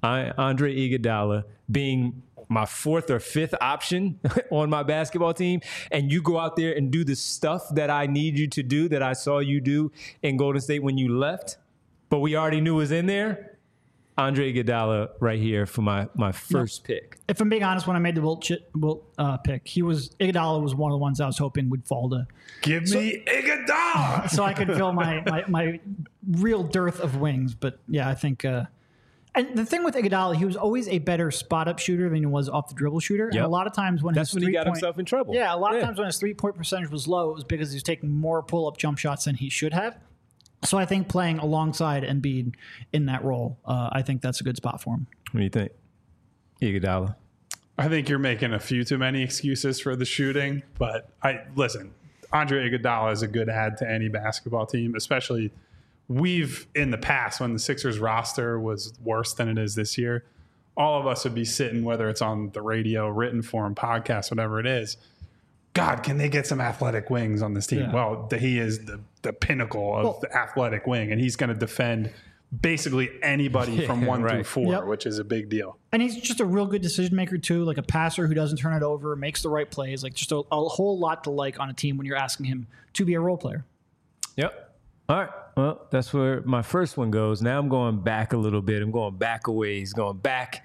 Andre Iguodala being my 4th or 5th option on my basketball team, and you go out there and do the stuff that I need you to do, that I saw you do in Golden State when you left, but we already knew was in there, Andre Iguodala right here for my first pick. If I'm being honest, when I made the Wilt pick, Iguodala was one of the ones I was hoping would fall to. Give me Iguodala! So I could fill my real dearth of wings. But yeah, I think... And the thing with Iguodala, he was always a better spot-up shooter than he was off-the-dribble shooter. Yep. And a lot of times when he got himself in trouble. Yeah, a lot of times when his three-point percentage was low, it was because he was taking more pull-up jump shots than he should have. So I think playing alongside Embiid in that role, I think that's a good spot for him. What do you think, Iguodala? I think you're making a few too many excuses for the shooting. But listen, Andre Iguodala is a good add to any basketball team, especially – we've, in the past, when the Sixers roster was worse than it is this year, all of us would be sitting, whether it's on the radio, written form, podcast, whatever it is, God, can they get some athletic wings on this team? Yeah. Well, he is the pinnacle of the athletic wing, and he's going to defend basically anybody from 1 through 4, which is a big deal. And he's just a real good decision maker, too, like a passer who doesn't turn it over, makes the right plays, like just a whole lot to like on a team when you're asking him to be a role player. Yep. All right. Well, that's where my first one goes. Now I'm going back a little bit. I'm going back a ways, going back.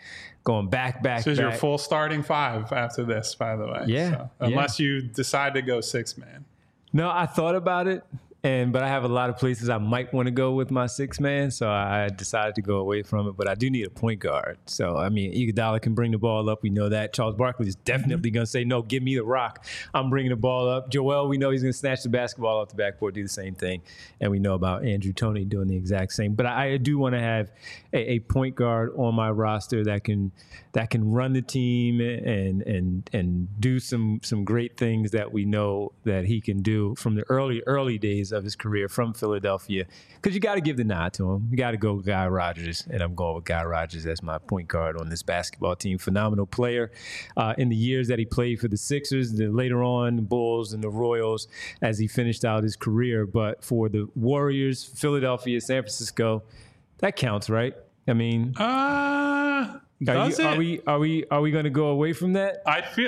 This is your full starting 5 after this, by the way. Yeah. So, unless you decide to go 6-man. No, I thought about it. But I have a lot of places I might want to go with my 6-man, so I decided to go away from it. But I do need a point guard. So, I mean, Iguodala can bring the ball up. We know that. Charles Barkley is definitely going to say, no, give me the rock. I'm bringing the ball up. Joel, we know he's going to snatch the basketball off the backboard, do the same thing. And we know about Andrew Toney doing the exact same. But I do want to have a point guard on my roster that can run the team and do some great things that we know that he can do from the early days of his career from Philadelphia. Because you got to give the nod to him. You got to go with Guy Rodgers, and I'm going with Guy Rodgers as my point guard on this basketball team. Phenomenal player in the years that he played for the Sixers, later on the Bulls and the Royals as he finished out his career. But for the Warriors, Philadelphia, San Francisco, that counts, right? I mean, are we going to go away from that?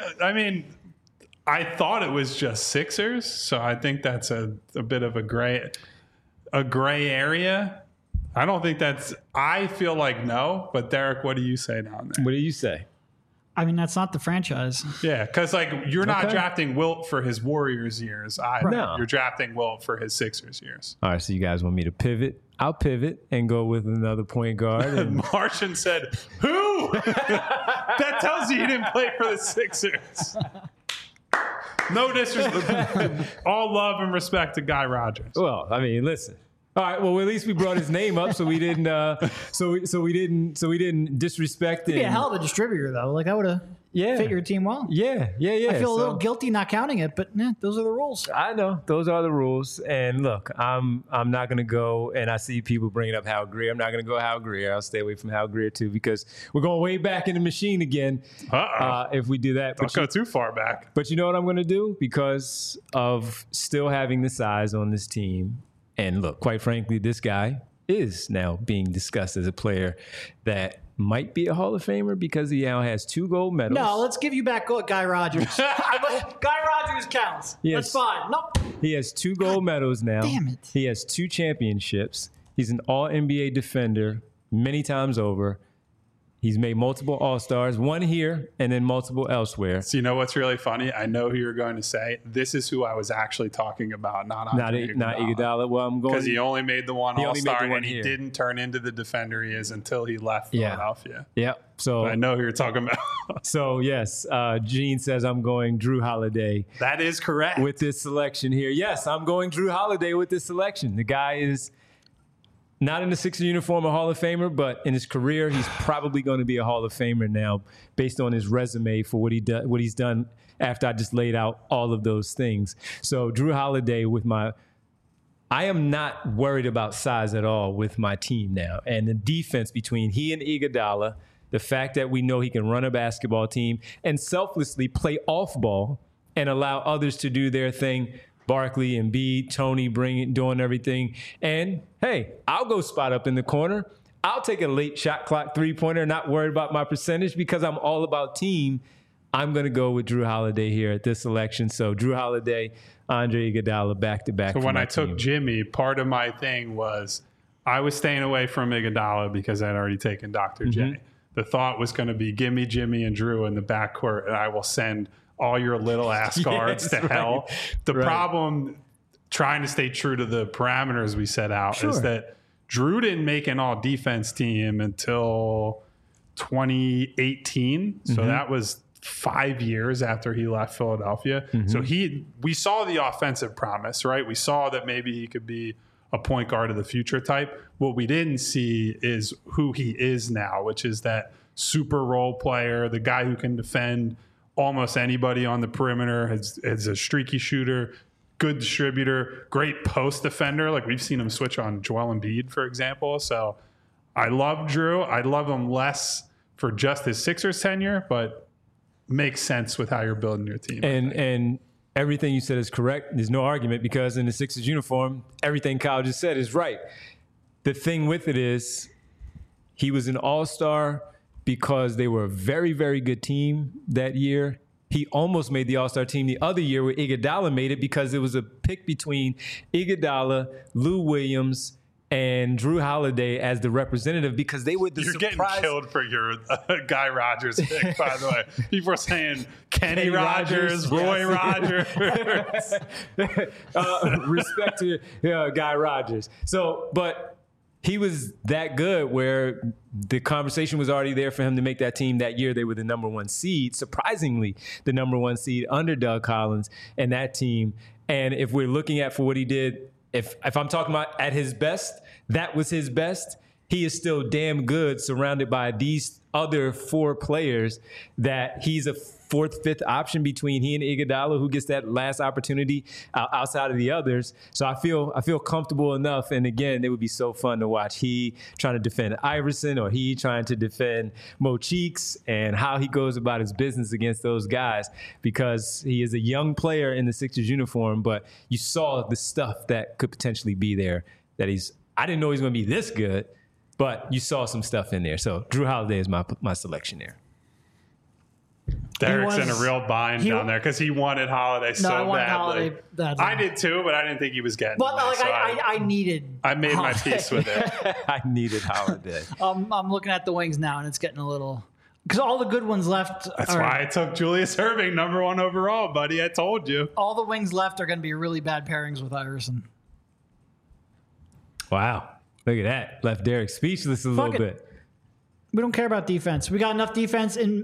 I thought it was just Sixers, so I think that's a bit of a gray area. I don't think that's. I feel like no, but Derek, what do you say down there? What do you say? I mean, that's not the franchise. Yeah, because you're not drafting Wilt for his Warriors years either. No. You're drafting Wilt for his Sixers years. All right, so you guys want me to pivot? I'll pivot and go with another point guard. And Martian said, "Who?" That tells you he didn't play for the Sixers. No disrespect. All love and respect to Guy Rodgers. Well, I mean, listen. All right. Well, at least we brought his name up, so we didn't. So we didn't disrespect him. He'd be a hell of a distributor, though. Like I would have fit your team well. Yeah. I feel a little guilty not counting it, but those are the rules. I know those are the rules. And look, I'm not gonna go. And I see people bringing up Hal Greer. I'm not gonna go Hal Greer. I'll stay away from Hal Greer too because we're going way back in the machine again. If we do that, don't go too far back. But you know what I'm gonna do because of still having the size on this team. And look, quite frankly, this guy is now being discussed as a player that might be a Hall of Famer because he now has 2 gold medals. No, let's give you back Guy Rodgers. Guy Rodgers counts. That's fine. Nope. He has 2 gold medals now. Damn it. He has 2 championships. He's an all-NBA defender many times over. He's made multiple All-Stars, 1 here and then multiple elsewhere. So you know what's really funny? I know who you're going to say. This is who I was actually talking about, not Iguodala. Well, I'm going because he only made the 1 All-Star and he didn't turn into the defender he is until he left Philadelphia. Yeah. So but I know who you're talking about. So yes, Gene says I'm going Drew Holiday. That is correct with this selection here. Yes, I'm going Drew Holiday with this selection. The guy is not in the Sixers uniform, a Hall of Famer, but in his career, he's probably going to be a Hall of Famer now based on his resume for what he's done after I just laid out all of those things. So Drew Holiday I am not worried about size at all with my team now. And the defense between he and Iguodala, the fact that we know he can run a basketball team and selflessly play off ball and allow others to do their thing, Barkley and Embiid, Toney doing everything. And hey, I'll go spot up in the corner. I'll take a late shot clock 3-pointer, not worried about my percentage because I'm all about team. I'm going to go with Drew Holiday here at this selection. So Drew Holiday, Andre Iguodala back-to-back. So when I took Jimmy, part of my thing was I was staying away from Iguodala because I'd already taken Dr. J. The thought was going to be give me Jimmy and Drew in the backcourt and I will send all your little ass guards to hell. The problem, trying to stay true to the parameters we set out, is that Drew didn't make an all defense team until 2018. So that was 5 years after he left Philadelphia. So we saw the offensive promise, right? We saw that maybe he could be a point guard of the future type. What we didn't see is who he is now, which is that super role player, the guy who can defend almost anybody on the perimeter, is a streaky shooter, good distributor, great post defender. Like we've seen him switch on Joel Embiid, for example. So I love Drew. I love him less for just his Sixers tenure, but makes sense with how you're building your team. And everything you said is correct. There's no argument because in the Sixers uniform, everything Kyle just said is right. The thing with it is he was an all-star because they were a very, very good team that year. He almost made the All-Star team the other year where Iguodala made it because it was a pick between Iguodala, Lou Williams, and Drew Holiday as the representative because they were the You're surprise. getting killed for your Guy Rogers pick, by the way. People are saying Kenny Rogers, Roy Rogers. Respect to Guy Rogers. So, but he was that good where the conversation was already there for him to make that team that year. They were the number 1 seed, surprisingly, the number 1 seed under Doug Collins and that team. And if we're looking at for what he did, if I'm talking about at his best, that was his best. He is still damn good surrounded by these other 4 players that he's a 4th, 5th option between he and Iguodala, who gets that last opportunity outside of the others. So I feel comfortable enough. And again, it would be so fun to watch he trying to defend Iverson or he trying to defend Mo Cheeks and how he goes about his business against those guys because he is a young player in the Sixers uniform, but you saw the stuff that could potentially be there that I didn't know he was going to be this good, but you saw some stuff in there. So Drew Holiday is my selection there. Derek's in a real bind down there because he wanted Holiday badly. I did too, but I didn't think he was getting But it. I made Holiday. my peace with it. I needed Holiday. I'm looking at the wings now, and it's getting a little because all the good ones left. That's why I took Julius Erving number 1 overall, buddy. I told you. All the wings left are going to be really bad pairings with Iverson. Wow, look at that! Left Derek speechless a little bit. We don't care about defense. We got enough defense in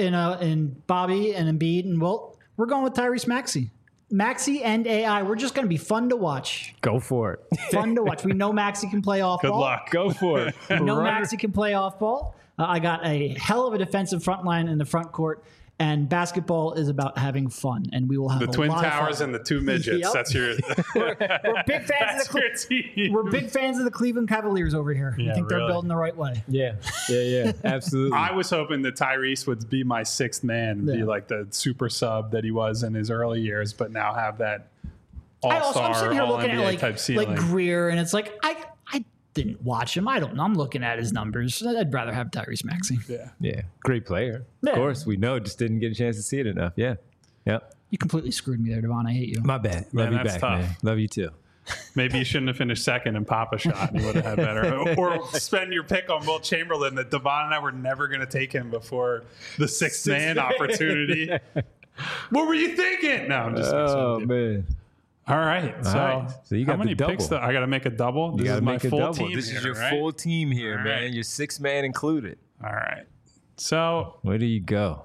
Bobby and Embiid and Wilt. We're going with Tyrese Maxey. Maxey and AI. We're just going to be fun to watch. Go for it. Fun to watch. We know Maxey can play off ball. Good luck. Go for it. We know Maxey can play off ball. I got a hell of a defensive front line in the front court. And basketball is about having fun, and we will have the Twin Towers and the 2 midgets. Yep. That's your. We're big fans of We're big fans of the Cleveland Cavaliers over here. I think they're building the right way. Yeah, absolutely. I was hoping that Tyrese would be my 6th man, be like the super sub that he was in his early years, but now have that all-star, I'm sitting here looking all-NBA at type ceiling. like Greer, and it's like I didn't watch him. I don't know. I'm looking at his numbers. I'd rather have Tyrese Maxey. Yeah, great player. Yeah. Of course, we know. Just didn't get a chance to see it enough. Yeah. You completely screwed me there, Devon. I hate you. My bad. Love you back, tough. man. Love you too. Maybe you shouldn't have finished 2nd and Papa shot. And you would have had better. Or spend your pick on Wilt Chamberlain that Devon and I were never going to take him before the 6th man opportunity. What were you thinking? No, I'm just Oh, man. All right. So you got how many the double. picks? I got to make a double. You got to make a full double. Team This is here, your right? full team here, All man. right. Your 6th man included. All right. So Where do you go?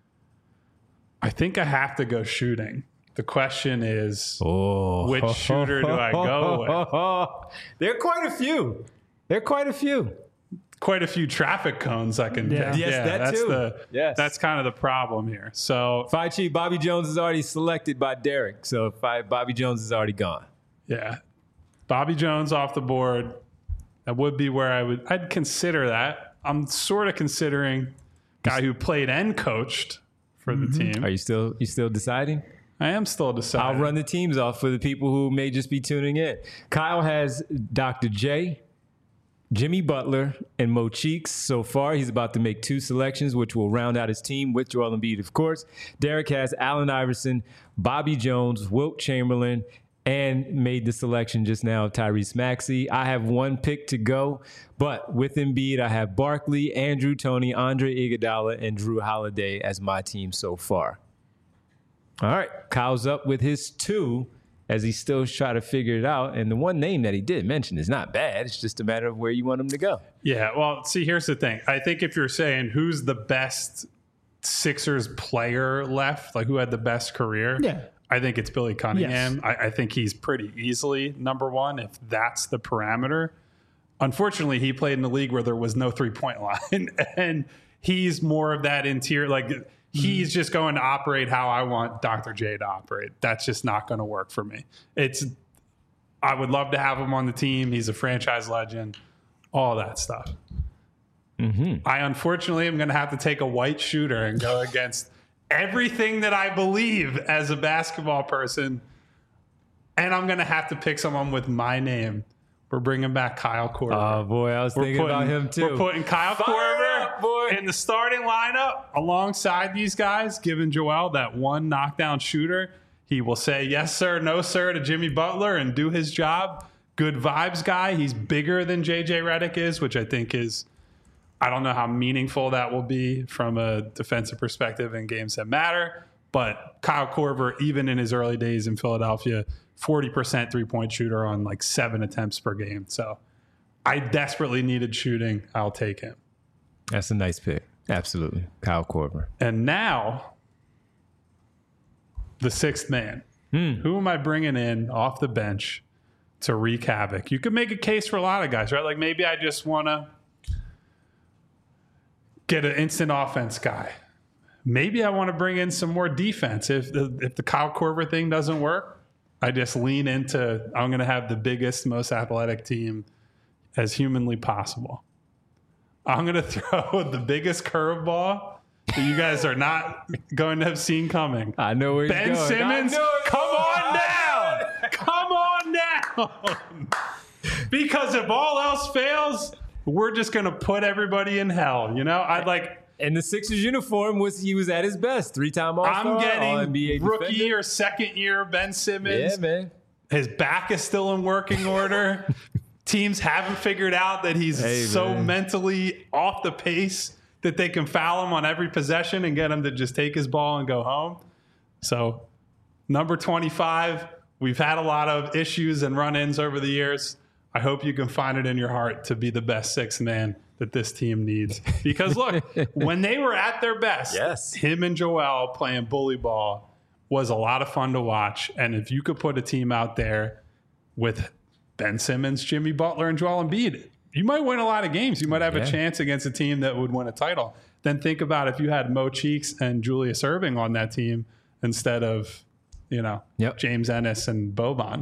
I think I have to go shooting. The question is, Oh, which shooter do I go with? There are quite a few. Quite a few traffic cones I can pick. Yes, that that's too. Yes. That's kind of the problem here. So Fi Chi, Bobby Jones is already selected by Derek. So Bobby Jones is already gone. yeah, Bobby Jones off the board. That would be where I'd consider that. I'm sort of considering guy who played and coached for the team. Are you still deciding? I am still deciding. I'll run the teams off for the people who may just be tuning in. Kyle has Dr. J, Jimmy Butler, and Mo Cheeks. So far, he's about to make 2 selections, which will round out his team with Joel Embiid, of course. Derek has Allen Iverson, Bobby Jones, Wilt Chamberlain, and made the selection just now of Tyrese Maxey. I have 1 pick to go, but with Embiid, I have Barkley, Andrew Toney, Andre Iguodala, and Drew Holiday as my team so far. All right, Kyle's up with his 2 as he still try to figure it out. And the one name that he did mention is not bad. It's just a matter of where you want him to go. Yeah, well, see, here's the thing. I think if you're saying who's the best Sixers player left, like who had the best career, I think it's Billy Cunningham. Yes. I think he's pretty easily number 1 if that's the parameter. Unfortunately, he played in a league where there was no 3-point line, and he's more of that interior, like he's just going to operate how I want Dr. J to operate. That's just not going to work for me. I would love to have him on the team. He's a franchise legend, all that stuff. I unfortunately am going to have to take a white shooter and go against everything that I believe as a basketball person. And I'm going to have to pick someone with my name. We're bringing back Kyle Korver. Oh, boy, I was thinking about him, too. We're putting Kyle Korver in the starting lineup alongside these guys, giving Joel that 1 knockdown shooter. He will say yes, sir, no, sir to Jimmy Butler and do his job. good vibes guy. He's bigger than JJ Redick is, which I think is, I don't know how meaningful that will be from a defensive perspective in games that matter. But Kyle Korver, even in his early days in Philadelphia, 40% three-point shooter on like 7 attempts per game. So I desperately needed shooting. I'll take him. That's a nice pick. Absolutely. Kyle Korver. And now, the sixth man. Who am I bringing in off the bench to wreak havoc? You could make a case for a lot of guys, right? Like maybe I just want to get an instant offense guy. Maybe I want to bring in some more defense. If the Kyle Korver thing doesn't work, I just lean into I'm going to have the biggest, most athletic team as humanly possible. I'm going to throw the biggest curveball that you guys are not going to have seen coming. I know where he's Ben going. Simmons, come on down. Come on down. Because if all else fails, we're just going to put everybody in hell. You know, I'd like... And the Sixers uniform he was at his best. 3-time All-Star. I'm getting All-NBA rookie defender. or second year Ben Simmons. Yeah, man. His back is still in working order. Teams haven't figured out that he's mentally off the pace that they can foul him on every possession and get him to just take his ball and go home. So, number 25, we've had a lot of issues and run-ins over the years. I hope you can find it in your heart to be the best sixth man that this team needs. Because look, when they were at their best, him and Joel playing bully ball was a lot of fun to watch. And if you could put a team out there with Ben Simmons, Jimmy Butler, and Joel Embiid, you might win a lot of games. You might have a chance against a team that would win a title. Then think about if you had Mo Cheeks and Julius Erving on that team instead of, James Ennis and Boban.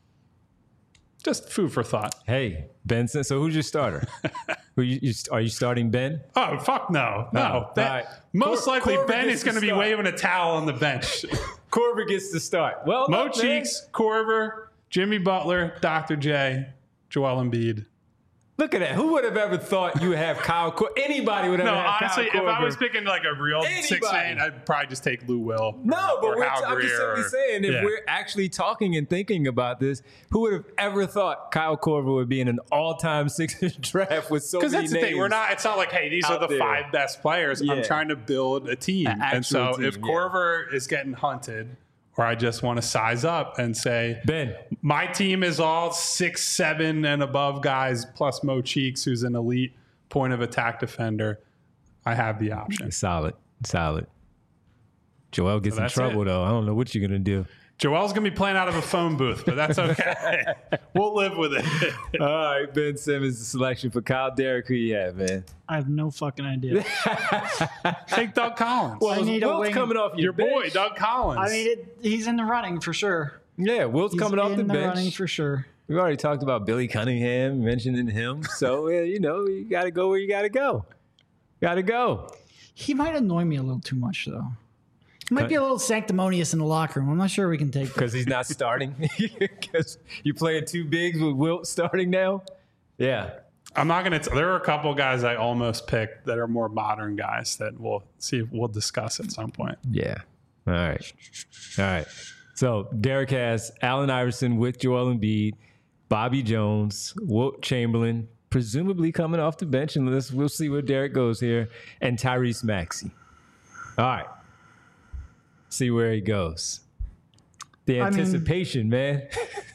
Just food for thought. Hey, Ben. So who's your starter? Are you starting Ben? Oh, fuck no. No. Right. Most likely Korver Ben gets is going to be start. waving a towel on the bench. Korver gets to start. Well, Mo Cheeks, Korver, Jimmy Butler, Dr. J, Joel Embiid. Look at that. Who would have ever thought you would have Kyle Korver? Anybody would have No, had honestly, Kyle Korver. if I was picking like a real six man, I'd probably just take Lou Will. No, but or Hal I'm just Greer simply saying, if we're actually talking and thinking about this, who would have ever thought Kyle Korver would be in an all-time Sixers draft with so many names? Because that's the thing. It's not like, hey, these are the there. 5 best players. Yeah. I'm trying to build a team. And so team, if Korver is getting hunted, or I just want to size up and say, Ben, my team is all 6'7" and above guys, plus Mo Cheeks, who's an elite point of attack defender, I have the option. Solid. Joel gets in trouble, though. I don't know what you're going to do. Joel's going to be playing out of a phone booth, but that's okay. We'll live with it. All right, Ben Simmons, the selection for Kyle Derrick. Who you have, man? I have no fucking idea. Take Doug Collins. I need a Wilt's wing. coming off your boy, bench. Doug Collins. I mean, he's in the running for sure. Yeah, Wilt's coming off the in the bench. running for sure. We already talked about Billy Cunningham, mentioning him. So, you got to go where you got to go. He might annoy me a little too much, though. He might be a little sanctimonious in the locker room. I'm not sure we can take that. Because he's not starting? Because you playing 2 bigs with Wilt starting now? Yeah. I'm not going to. There are a couple guys I almost picked that are more modern guys that we'll discuss at some point. Yeah. All right. So Derek has Allen Iverson with Joel Embiid, Bobby Jones, Wilt Chamberlain, presumably coming off the bench, and we'll see where Derek goes here, and Tyrese Maxey. All right. See where he goes. The anticipation, man.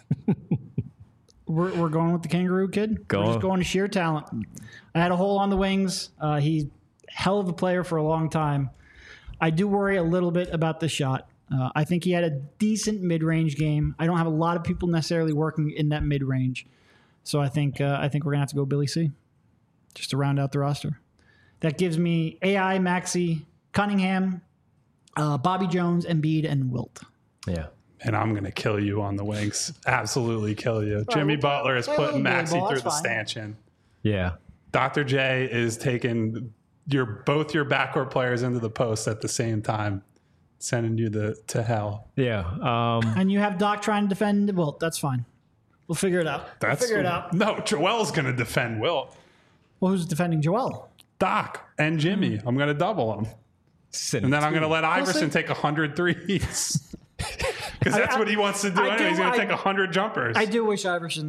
We're going with the Kangaroo Kid. We're just going to sheer talent. I had a hole on the wings. He's hell of a player for a long time. I do worry a little bit about the shot. I think he had a decent mid-range game. I don't have a lot of people necessarily working in that mid-range. So I think we're going to have to go Billy C. Just to round out the roster. That gives me AI, Maxey, Cunningham, Bobby Jones, Embiid, and Wilt. Yeah. And I'm going to kill you on the wings. Absolutely kill you. Jimmy Butler is putting Maxey through the stanchion. Yeah. Dr. J is taking both your backcourt players into the post at the same time, sending you to hell. Yeah. And you have Doc trying to defend Wilt. That's fine. We'll figure it out. No, Joel's going to defend Wilt. Well, who's defending Joel? Doc and Jimmy. I'm going to double them. And then I'm going to let Iverson take 100 threes. Because that's what he wants to do anyway. He's going to take 100 jumpers. I do wish Iverson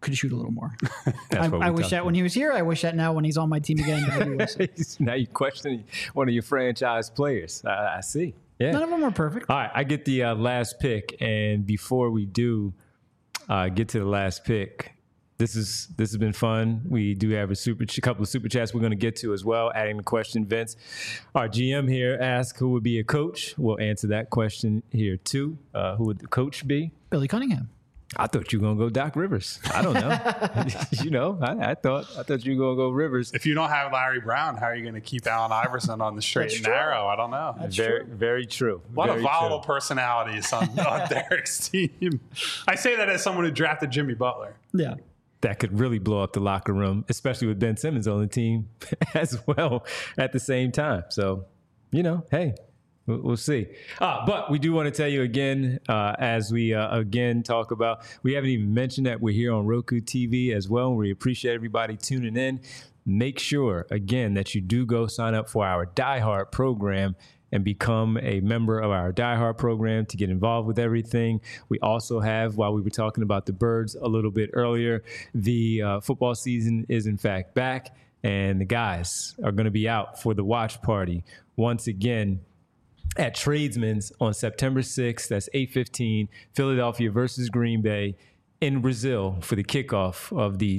could shoot a little more. I wish that when he was here. I wish that now when he's on my team again. Now you're questioning one of your franchise players. I see. Yeah. None of them are perfect. All right, I get the last pick, and before we do get to the last pick, this has been fun. We do have a couple of super chats we're going to get to as well. Adding the question, Vince, our GM here asked who would be a coach. We'll answer that question here too. Who would the coach be? Billy Cunningham. I thought you were gonna go Doc Rivers. I don't know. I thought you were gonna go Rivers. If you don't have Larry Brown, how are you gonna keep Allen Iverson on the straight and narrow? I don't know. That's very true. A lot of volatile personalities on Derek's team. I say that as someone who drafted Jimmy Butler. Yeah. That could really blow up the locker room, especially with Ben Simmons on the team as well at the same time. So, hey. We'll see. But we do want to tell you again, as we again talk about, we haven't even mentioned that we're here on Roku TV as well. We appreciate everybody tuning in. Make sure, again, that you do go sign up for our Die Hard program and become a member of our Die Hard program to get involved with everything. We also have, while we were talking about the Birds a little bit earlier, the football season is in fact back, and the guys are going to be out for the watch party once again at Tradesman's on September 6th. That's 8:15, Philadelphia versus Green Bay in Brazil for the kickoff of the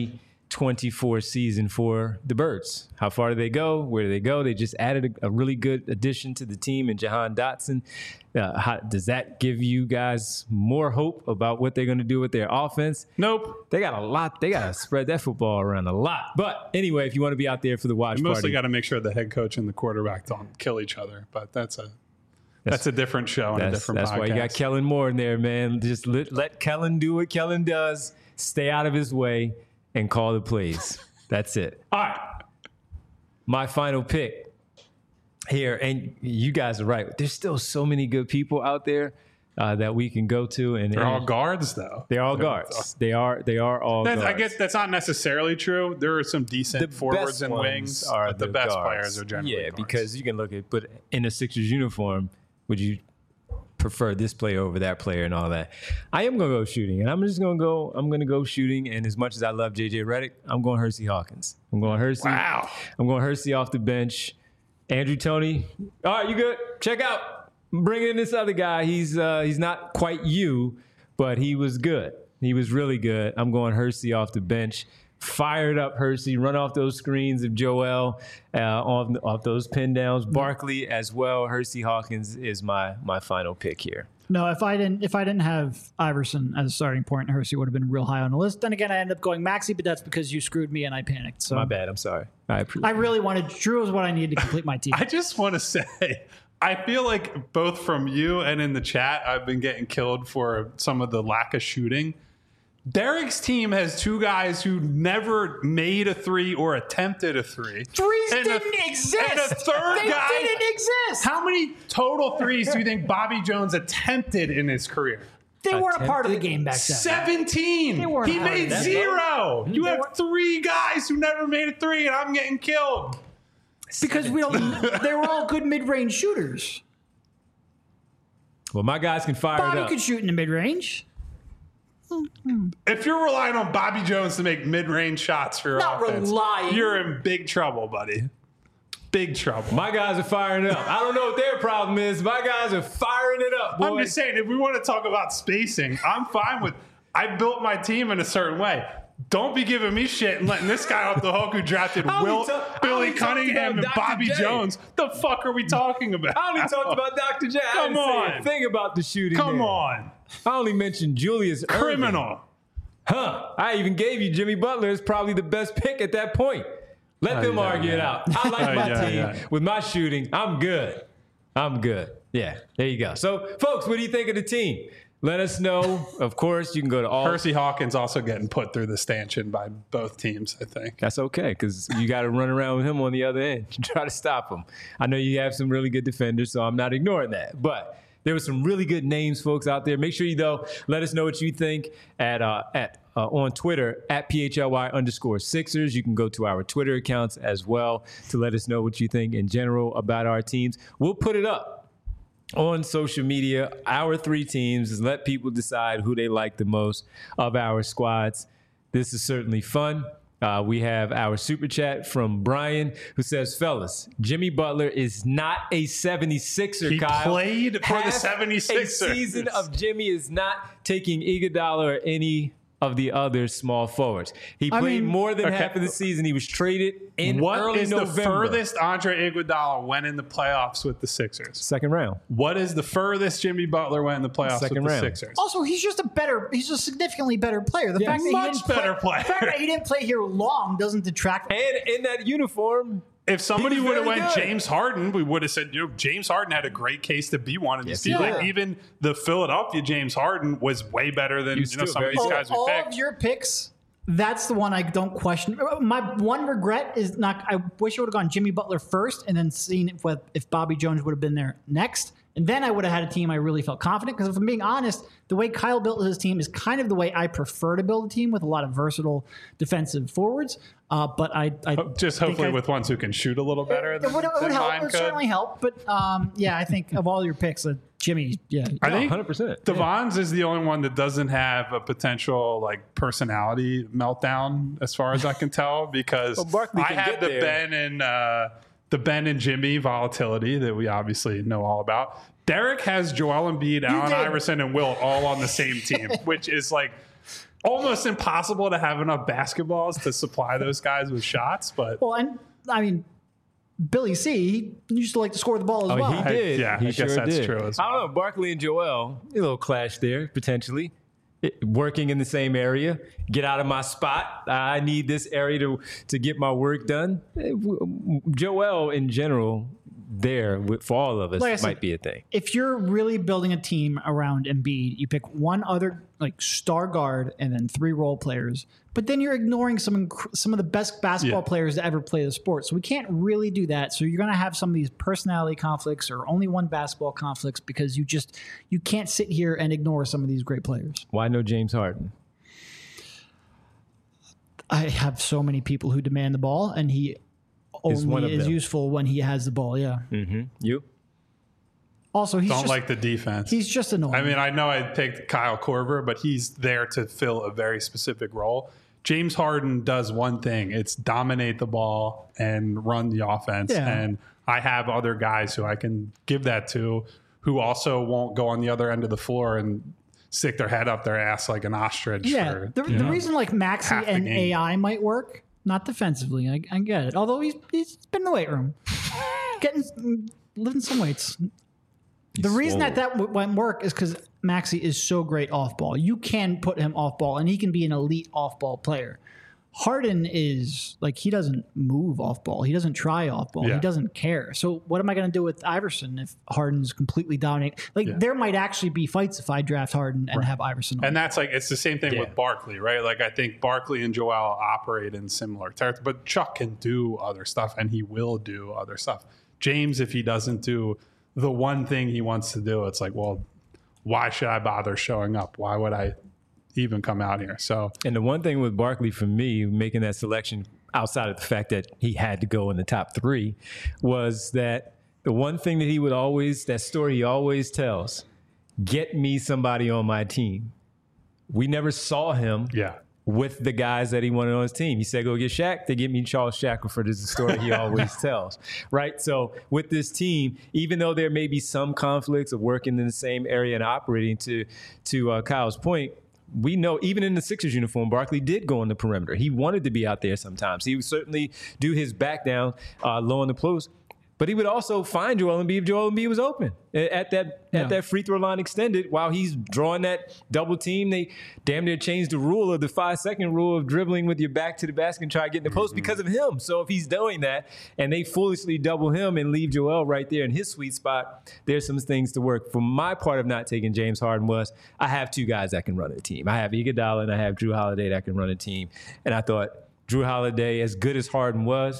2024 season for the Birds. How far do they go? Where do they go? They just added a really good addition to the team in Jahan Dotson. Does that give you guys more hope about what they're going to do with their offense? Nope. They got a lot. They got to spread that football around a lot. But anyway, if you want to be out there for the watch party. Mostly got to make sure the head coach and the quarterback don't kill each other. But that's a different show and a different podcast. That's why you got Kellen Moore in there, man. Just let Kellen do what Kellen does. Stay out of his way and call the plays. That's it. All right. My final pick here, and you guys are right. There's still so many good people out there that we can go to, and they're all guards, though. They're all guards. They are all guards. I guess that's not necessarily true. There are some decent forwards and wings, but the best players are generally guards. Because you can look at, but in a Sixers uniform, would you prefer this player over that player and all that? I am going to go shooting, and I'm going to go shooting, and as much as I love JJ Redick, I'm going Hersey Hawkins. I'm going Hersey. Wow. I'm going Hersey off the bench. Andrew Toney. All right, you good? Check out. Bring in this other guy. He's not quite you, but he was good. He was really good. I'm going Hersey off the bench. Fired up Hersey, run off those screens of Joel, off those pin downs. Barkley as well. Hersey Hawkins is my final pick here. No, if I didn't have Iverson as a starting point, Hersey would have been real high on the list. Then again, I ended up going Maxey, but that's because you screwed me and I panicked. So my bad. I'm sorry. I really wanted Drew was what I needed to complete my team. I just want to say, I feel like both from you and in the chat, I've been getting killed for some of the lack of shooting. Derek's team has two guys who never made a three or attempted a three. Threes didn't exist. And a third guy didn't exist. How many total threes do you think Bobby Jones attempted in his career? They weren't a part of the game back then. 17. He made 0. You have three guys who never made a three, and I'm getting killed. Because they were all good mid-range shooters. Well, my guys can fire Bobby it up. could shoot in the mid-range. If you're relying on Bobby Jones to make mid-range shots for your offense, you're in big trouble, buddy. Big trouble. My guys are firing it up. I don't know what their problem is. My guys are firing it up, boy. I'm just saying, if we want to talk about spacing, I'm fine with I built my team in a certain way. Don't be giving me shit and letting this guy off the hook who drafted Billy Cunningham and Bobby Jones. The fuck are we talking about? I only talked about Dr. J. I didn't say a thing about the shooting. Come on. I only mentioned Julius Criminal. Irving. I even gave you Jimmy Butler as probably the best pick at that point. Let them argue it out. I like my team with my shooting. I'm good. Yeah, there you go. So, folks, what do you think of the team? Let us know. Of course, you can go to all. Hersey Hawkins also getting put through the stanchion by both teams, I think. That's okay, because you got to run around with him on the other end to try to stop him. I know you have some really good defenders, so I'm not ignoring that. But there were some really good names, folks, out there. Make sure you, though, let us know what you think on Twitter at @PHLY_Sixers. You can go to our Twitter accounts as well to let us know what you think in general about our teams. We'll put it up on social media, our three teams, and let people decide who they like the most of our squads. This is certainly fun. We have our super chat from Brian who says, fellas, Jimmy Butler is not a 76er, he Kyle. Played for the 76ers. A season of Jimmy is not taking Iguodala or any of the other small forwards. He played more than half of the season. He was traded in early November. What is the furthest Andre Iguodala went in the playoffs with the Sixers? Second round. What is the furthest Jimmy Butler went in the playoffs with the Sixers? Also, he's a significantly better player. The fact that he didn't play here long doesn't detract. And in that uniform, if somebody would have went James Harden, we would have said, James Harden had a great case to be one of these people. Like, even the Philadelphia James Harden was way better than some of these guys we picked. All of your picks, that's the one I don't question. My one regret is not. I wish I would have gone Jimmy Butler first and then seen if Bobby Jones would have been there next. And then I would have had a team I really felt confident. Because if I'm being honest, the way Kyle built his team is kind of the way I prefer to build a team, with a lot of versatile defensive forwards. But I just hopefully with ones who can shoot a little better. It would help. It would certainly help. But I think of all your picks, Jimmy, I think 100%. Devon's is the only one that doesn't have a potential personality meltdown, as far as I can tell, because I have the Ben and Jimmy volatility that we obviously know all about. Derek has Joel Embiid, Allen Iverson, and Wilt all on the same team, which is almost impossible to have enough basketballs to supply those guys with shots. But Billy C, he used to like to score the ball as well. He did. I guess that's true as well. I don't know. Barkley and Joel, a little clash there, potentially. Working in the same area. Get out of my spot. I need this area to get my work done. Joel, in general, for all of us, might be a thing. If you're really building a team around Embiid, you pick one other star guard and then 3 role players. But then you're ignoring some of the best basketball players to ever play the sport. So we can't really do that. So you're going to have some of these personality conflicts or only one basketball conflicts because you can't sit here and ignore some of these great players. Why no James Harden? I have so many people who demand the ball, and he only is useful when he has the ball. Yeah. Mm-hmm. You? Also, don't like the defense. He's just annoying. I know I picked Kyle Korver, but he's there to fill a very specific role. James Harden does one thing. It's dominate the ball and run the offense. Yeah. And I have other guys who I can give that to who also won't go on the other end of the floor and stick their head up their ass like an ostrich. Yeah. The reason Maxey and AI might work, not defensively. I get it. Although he's been in the weight room, lifting some weights. The reason that won't work is because Maxey is so great off ball. You can put him off ball, and he can be an elite off ball player. Harden is he doesn't move off ball. He doesn't try off ball. Yeah. He doesn't care. So what am I going to do with Iverson if Harden's completely dominating? There might actually be fights if I draft Harden and have Iverson on. And that's it's the same thing with Barkley, right? I think Barkley and Joel operate in similar territory, but Chuck can do other stuff, and he will do other stuff. James, if he doesn't do the one thing he wants to do, it's why should I bother showing up? Why would I even come out here? So, and the one thing with Barkley for me making that selection, outside of the fact that he had to go in the top 3, was that the one thing that that story he always tells, get me somebody on my team. We never saw him with the guys that he wanted on his team. He said, go get Shaq. They get me Charles Shackelford, is the story he always tells, right? So with this team, even though there may be some conflicts of working in the same area and operating, to Kyle's point, we know even in the Sixers uniform, Barkley did go on the perimeter. He wanted to be out there sometimes. He would certainly do his back down low on the post. But he would also find Joel Embiid if Joel Embiid was open at that free throw line extended while he's drawing that double team. They damn near changed the rule of the 5-second rule of dribbling with your back to the basket and try to get in the post because of him. So if he's doing that and they foolishly double him and leave Joel right there in his sweet spot, there's some things to work. For my part of not taking James Harden was I have 2 guys that can run a team. I have Iguodala and I have Jrue Holiday that can run a team. And I thought Jrue Holiday, as good as Harden was,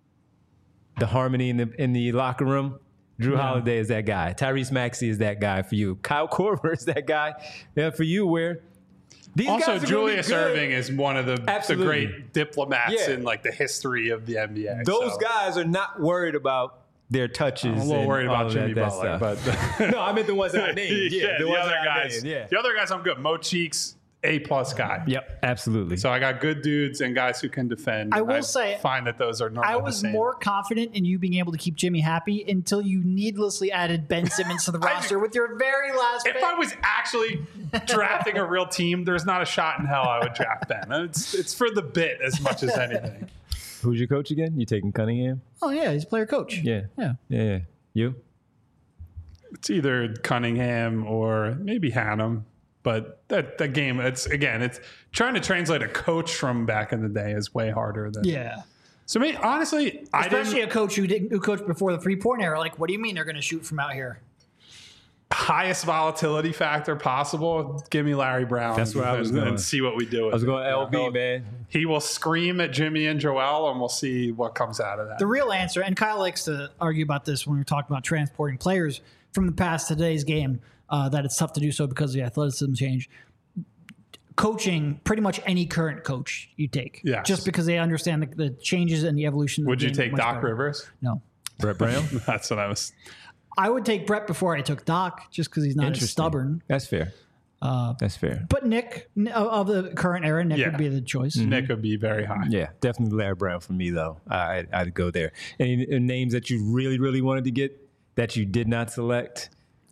the harmony in the locker room, Jrue Holiday is that guy. Tyrese Maxey is that guy for you. Kyle Korver is that guy for you, where these also guys are Julius Erving is one of the great diplomats in the history of the NBA. Those guys are not worried about their touches. I'm a little worried about Jimmy Butler, but no, I meant the ones that I named. The other guys. The other guys, I'm good. Mo Cheeks A-plus guy. Yep, absolutely. So I got good dudes and guys who can defend. I will say, find that those are not. I was more confident in you being able to keep Jimmy happy until you needlessly added Ben Simmons to the roster with your very last pick. If I was actually drafting a real team, there's not a shot in hell I would draft Ben. It's for the bit as much as anything. Who's your coach again? You taking Cunningham? Oh, yeah, he's player coach. Yeah. Yeah. You? It's either Cunningham or maybe Hannum. But that game, it's trying to translate a coach from back in the day is way harder than. Yeah. So, honestly, especially a coach who coached before the 3-point era. Like, what do you mean they're going to shoot from out here? Highest volatility factor possible. Give me Larry Brown. That's where I was going. And see what we do with I was going LB, man. He will scream at Jimmy and Joel, and we'll see what comes out of that. The real answer, and Kyle likes to argue about this when we're talking about transporting players from the past to today's game, that it's tough to do so because of the athleticism change. Coaching, pretty much any current coach you take. Yes. Just because they understand the changes and the evolution. Would you take Doc Rivers? No. Brett Brown? That's what I was. I would take Brett before I took Doc, just because he's not as stubborn. That's fair. That's fair. But Nick, of the current era, Nick would be the choice. Mm-hmm. Nick would be very high. Yeah, definitely Larry Brown for me, though. I'd go there. Any names that you really, really wanted to get that you did not select?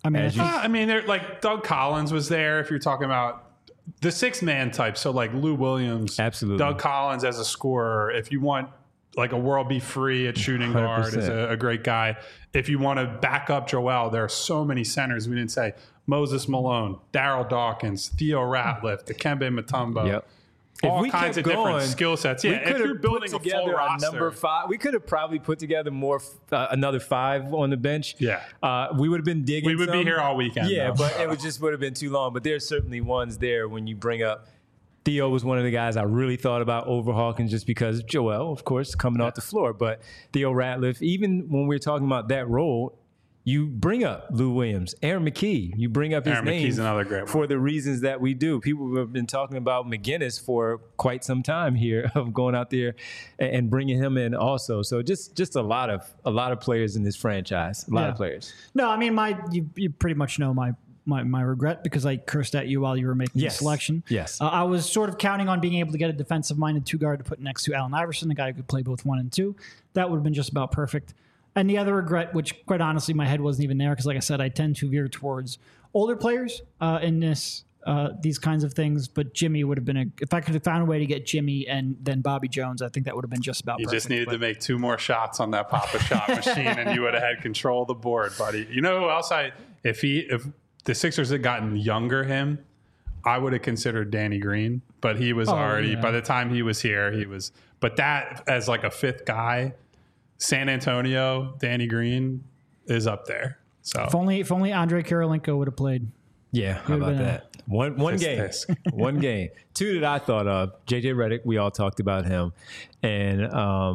They're like Doug Collins was there. If you're talking about the 6-man type, so like Lou Williams, absolutely. Doug Collins as a scorer. If you want like a world be free at shooting guard, 100%. Is a great guy. If you want to back up Joel, there are so many centers. We didn't say Moses Malone, Daryl Dawkins, Theo Ratliff, Dikembe Mutombo. Yep. All kinds of different skill sets. Yeah, if you're building a full roster, number 5, we could have probably put together another 5 on the bench. Yeah, we would have been digging. We would be here all weekend. Yeah, but it would have been too long. But there's certainly ones there when you bring up. Theo was one of the guys I really thought about over Hawkins just because Joel, of course, coming off the floor. But Theo Ratliff, even when we're talking about that role, you bring up Lou Williams, Aaron McKee. You bring up his name another great one. For the reasons that we do. People have been talking about McGinnis for quite some time here of going out there and bringing him in also. So just a lot of players in this franchise. A lot of players. No, I mean you pretty much know my regret because I cursed at you while you were making the selection. Yes. I was sort of counting on being able to get a defensive-minded 2-guard to put next to Allen Iverson, a guy who could play both 1 and 2. That would have been just about perfect. And the other regret, which quite honestly my head wasn't even there because like I said, I tend to veer towards older players in these kinds of things. But Jimmy would have been if I could have found a way to get Jimmy and then Bobby Jones, I think that would have been just about perfect. You just needed to make 2 more shots on that Papa Shot machine and you would have had control of the board, buddy. You know who else if the Sixers had gotten younger I would have considered Danny Green, but he was by the time he was here, but that as like a 5th guy, San Antonio, Danny Green is up there. So if only Andre Kirilenko would have played. Yeah, how about that? One game. One game. 2 that I thought of. JJ Redick, we all talked about him. And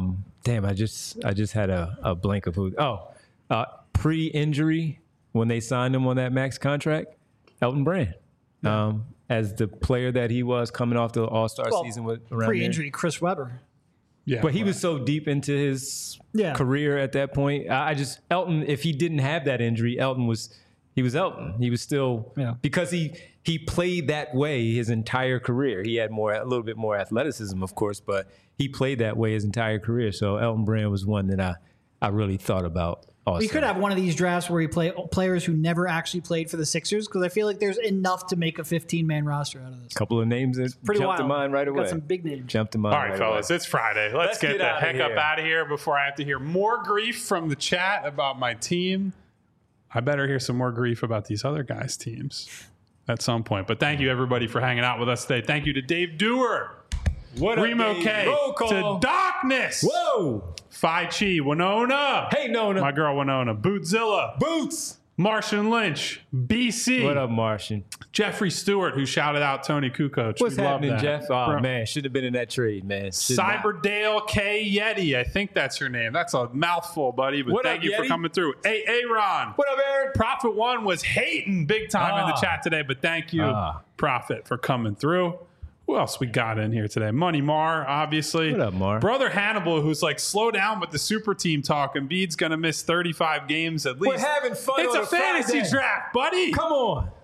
I just had a blank of who. Pre-injury when they signed him on that max contract, Elton Brand. As the player that he was coming off the All-Star season with around pre-injury, Chris Webber. Yeah, but he was so deep into his career at that point. Elton, if he didn't have that injury, Elton was Elton. He was still because he played that way his entire career. He had a little bit more athleticism, of course, but he played that way his entire career. So Elton Brand was one that I really thought about. Also. We could have one of these drafts where you play players who never actually played for the Sixers because I feel like there's enough to make a 15-man roster out of this. A couple of names that jumped to mind right away. Got some big names. Jumped to mind. All right, fellas, it's Friday. Let's get the heck up out of here before I have to hear more grief from the chat about my team. I better hear some more grief about these other guys' teams at some point. But thank you, everybody, for hanging out with us today. Thank you to Dave Dewar. What up, Remo Dave? K. Roll call. To Darkness. Whoa. Phi Chi. Winona. Hey, Nona. My girl, Winona. Bootzilla. Boots. Martian Lynch. BC. What up, Martian? Jeffrey Stewart, who shouted out Tony Kukoc. What's happening, Jeff? Oh, man. Should have been in that trade, man. Cyberdale K. Yeti. I think that's your name. That's a mouthful, buddy. But thank you for coming through. Hey, Aaron. What up, Aaron? Prophet One was hating big time in the chat today, but thank you, Prophet, for coming through. Who else we got in here today? Money Mar, obviously. What up, Mar? Brother Hannibal, who's like, slow down with the super team talk. Embiid's going to miss 35 games at least. We're having fun. It's a fantasy draft, buddy. Come on.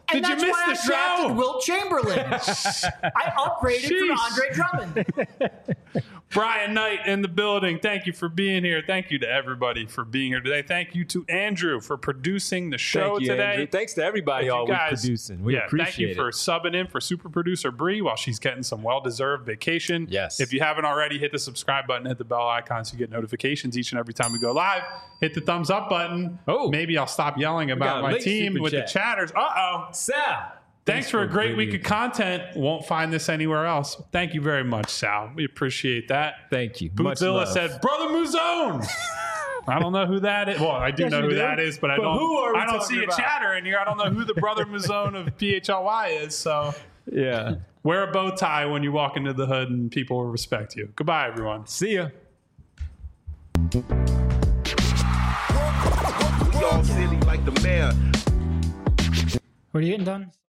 And Did you that's miss why the I show? drafted Wilt Chamberlain. I upgraded from Andre Drummond. Brian Knight in the building. Thank you for being here. Thank you to everybody for being here today. Thank you to Andrew for producing the show today. Andrew. Thanks to everybody all week producing. We appreciate it. Thank you for subbing in for super producer Bree while she's getting some well-deserved vacation. Yes. If you haven't already, hit the subscribe button, hit the bell icon so you get notifications each and every time we go live. Hit the thumbs up button. Oh. Maybe I'll stop yelling about my team with the chatters. Uh-oh. Sal. Thanks for a great week of content. Won't find this anywhere else. Thank you very much, Sal. We appreciate that. Thank you. Bootzilla said, Brother Muzone. I don't know who that is. Well, I do know who that is, but I don't see a chatter in here. I don't know who the Brother Muzone of PHLY is. So yeah, wear a bow tie when you walk into the hood and people will respect you. Goodbye, everyone. See ya. We all silly like the mayor. What are you getting done?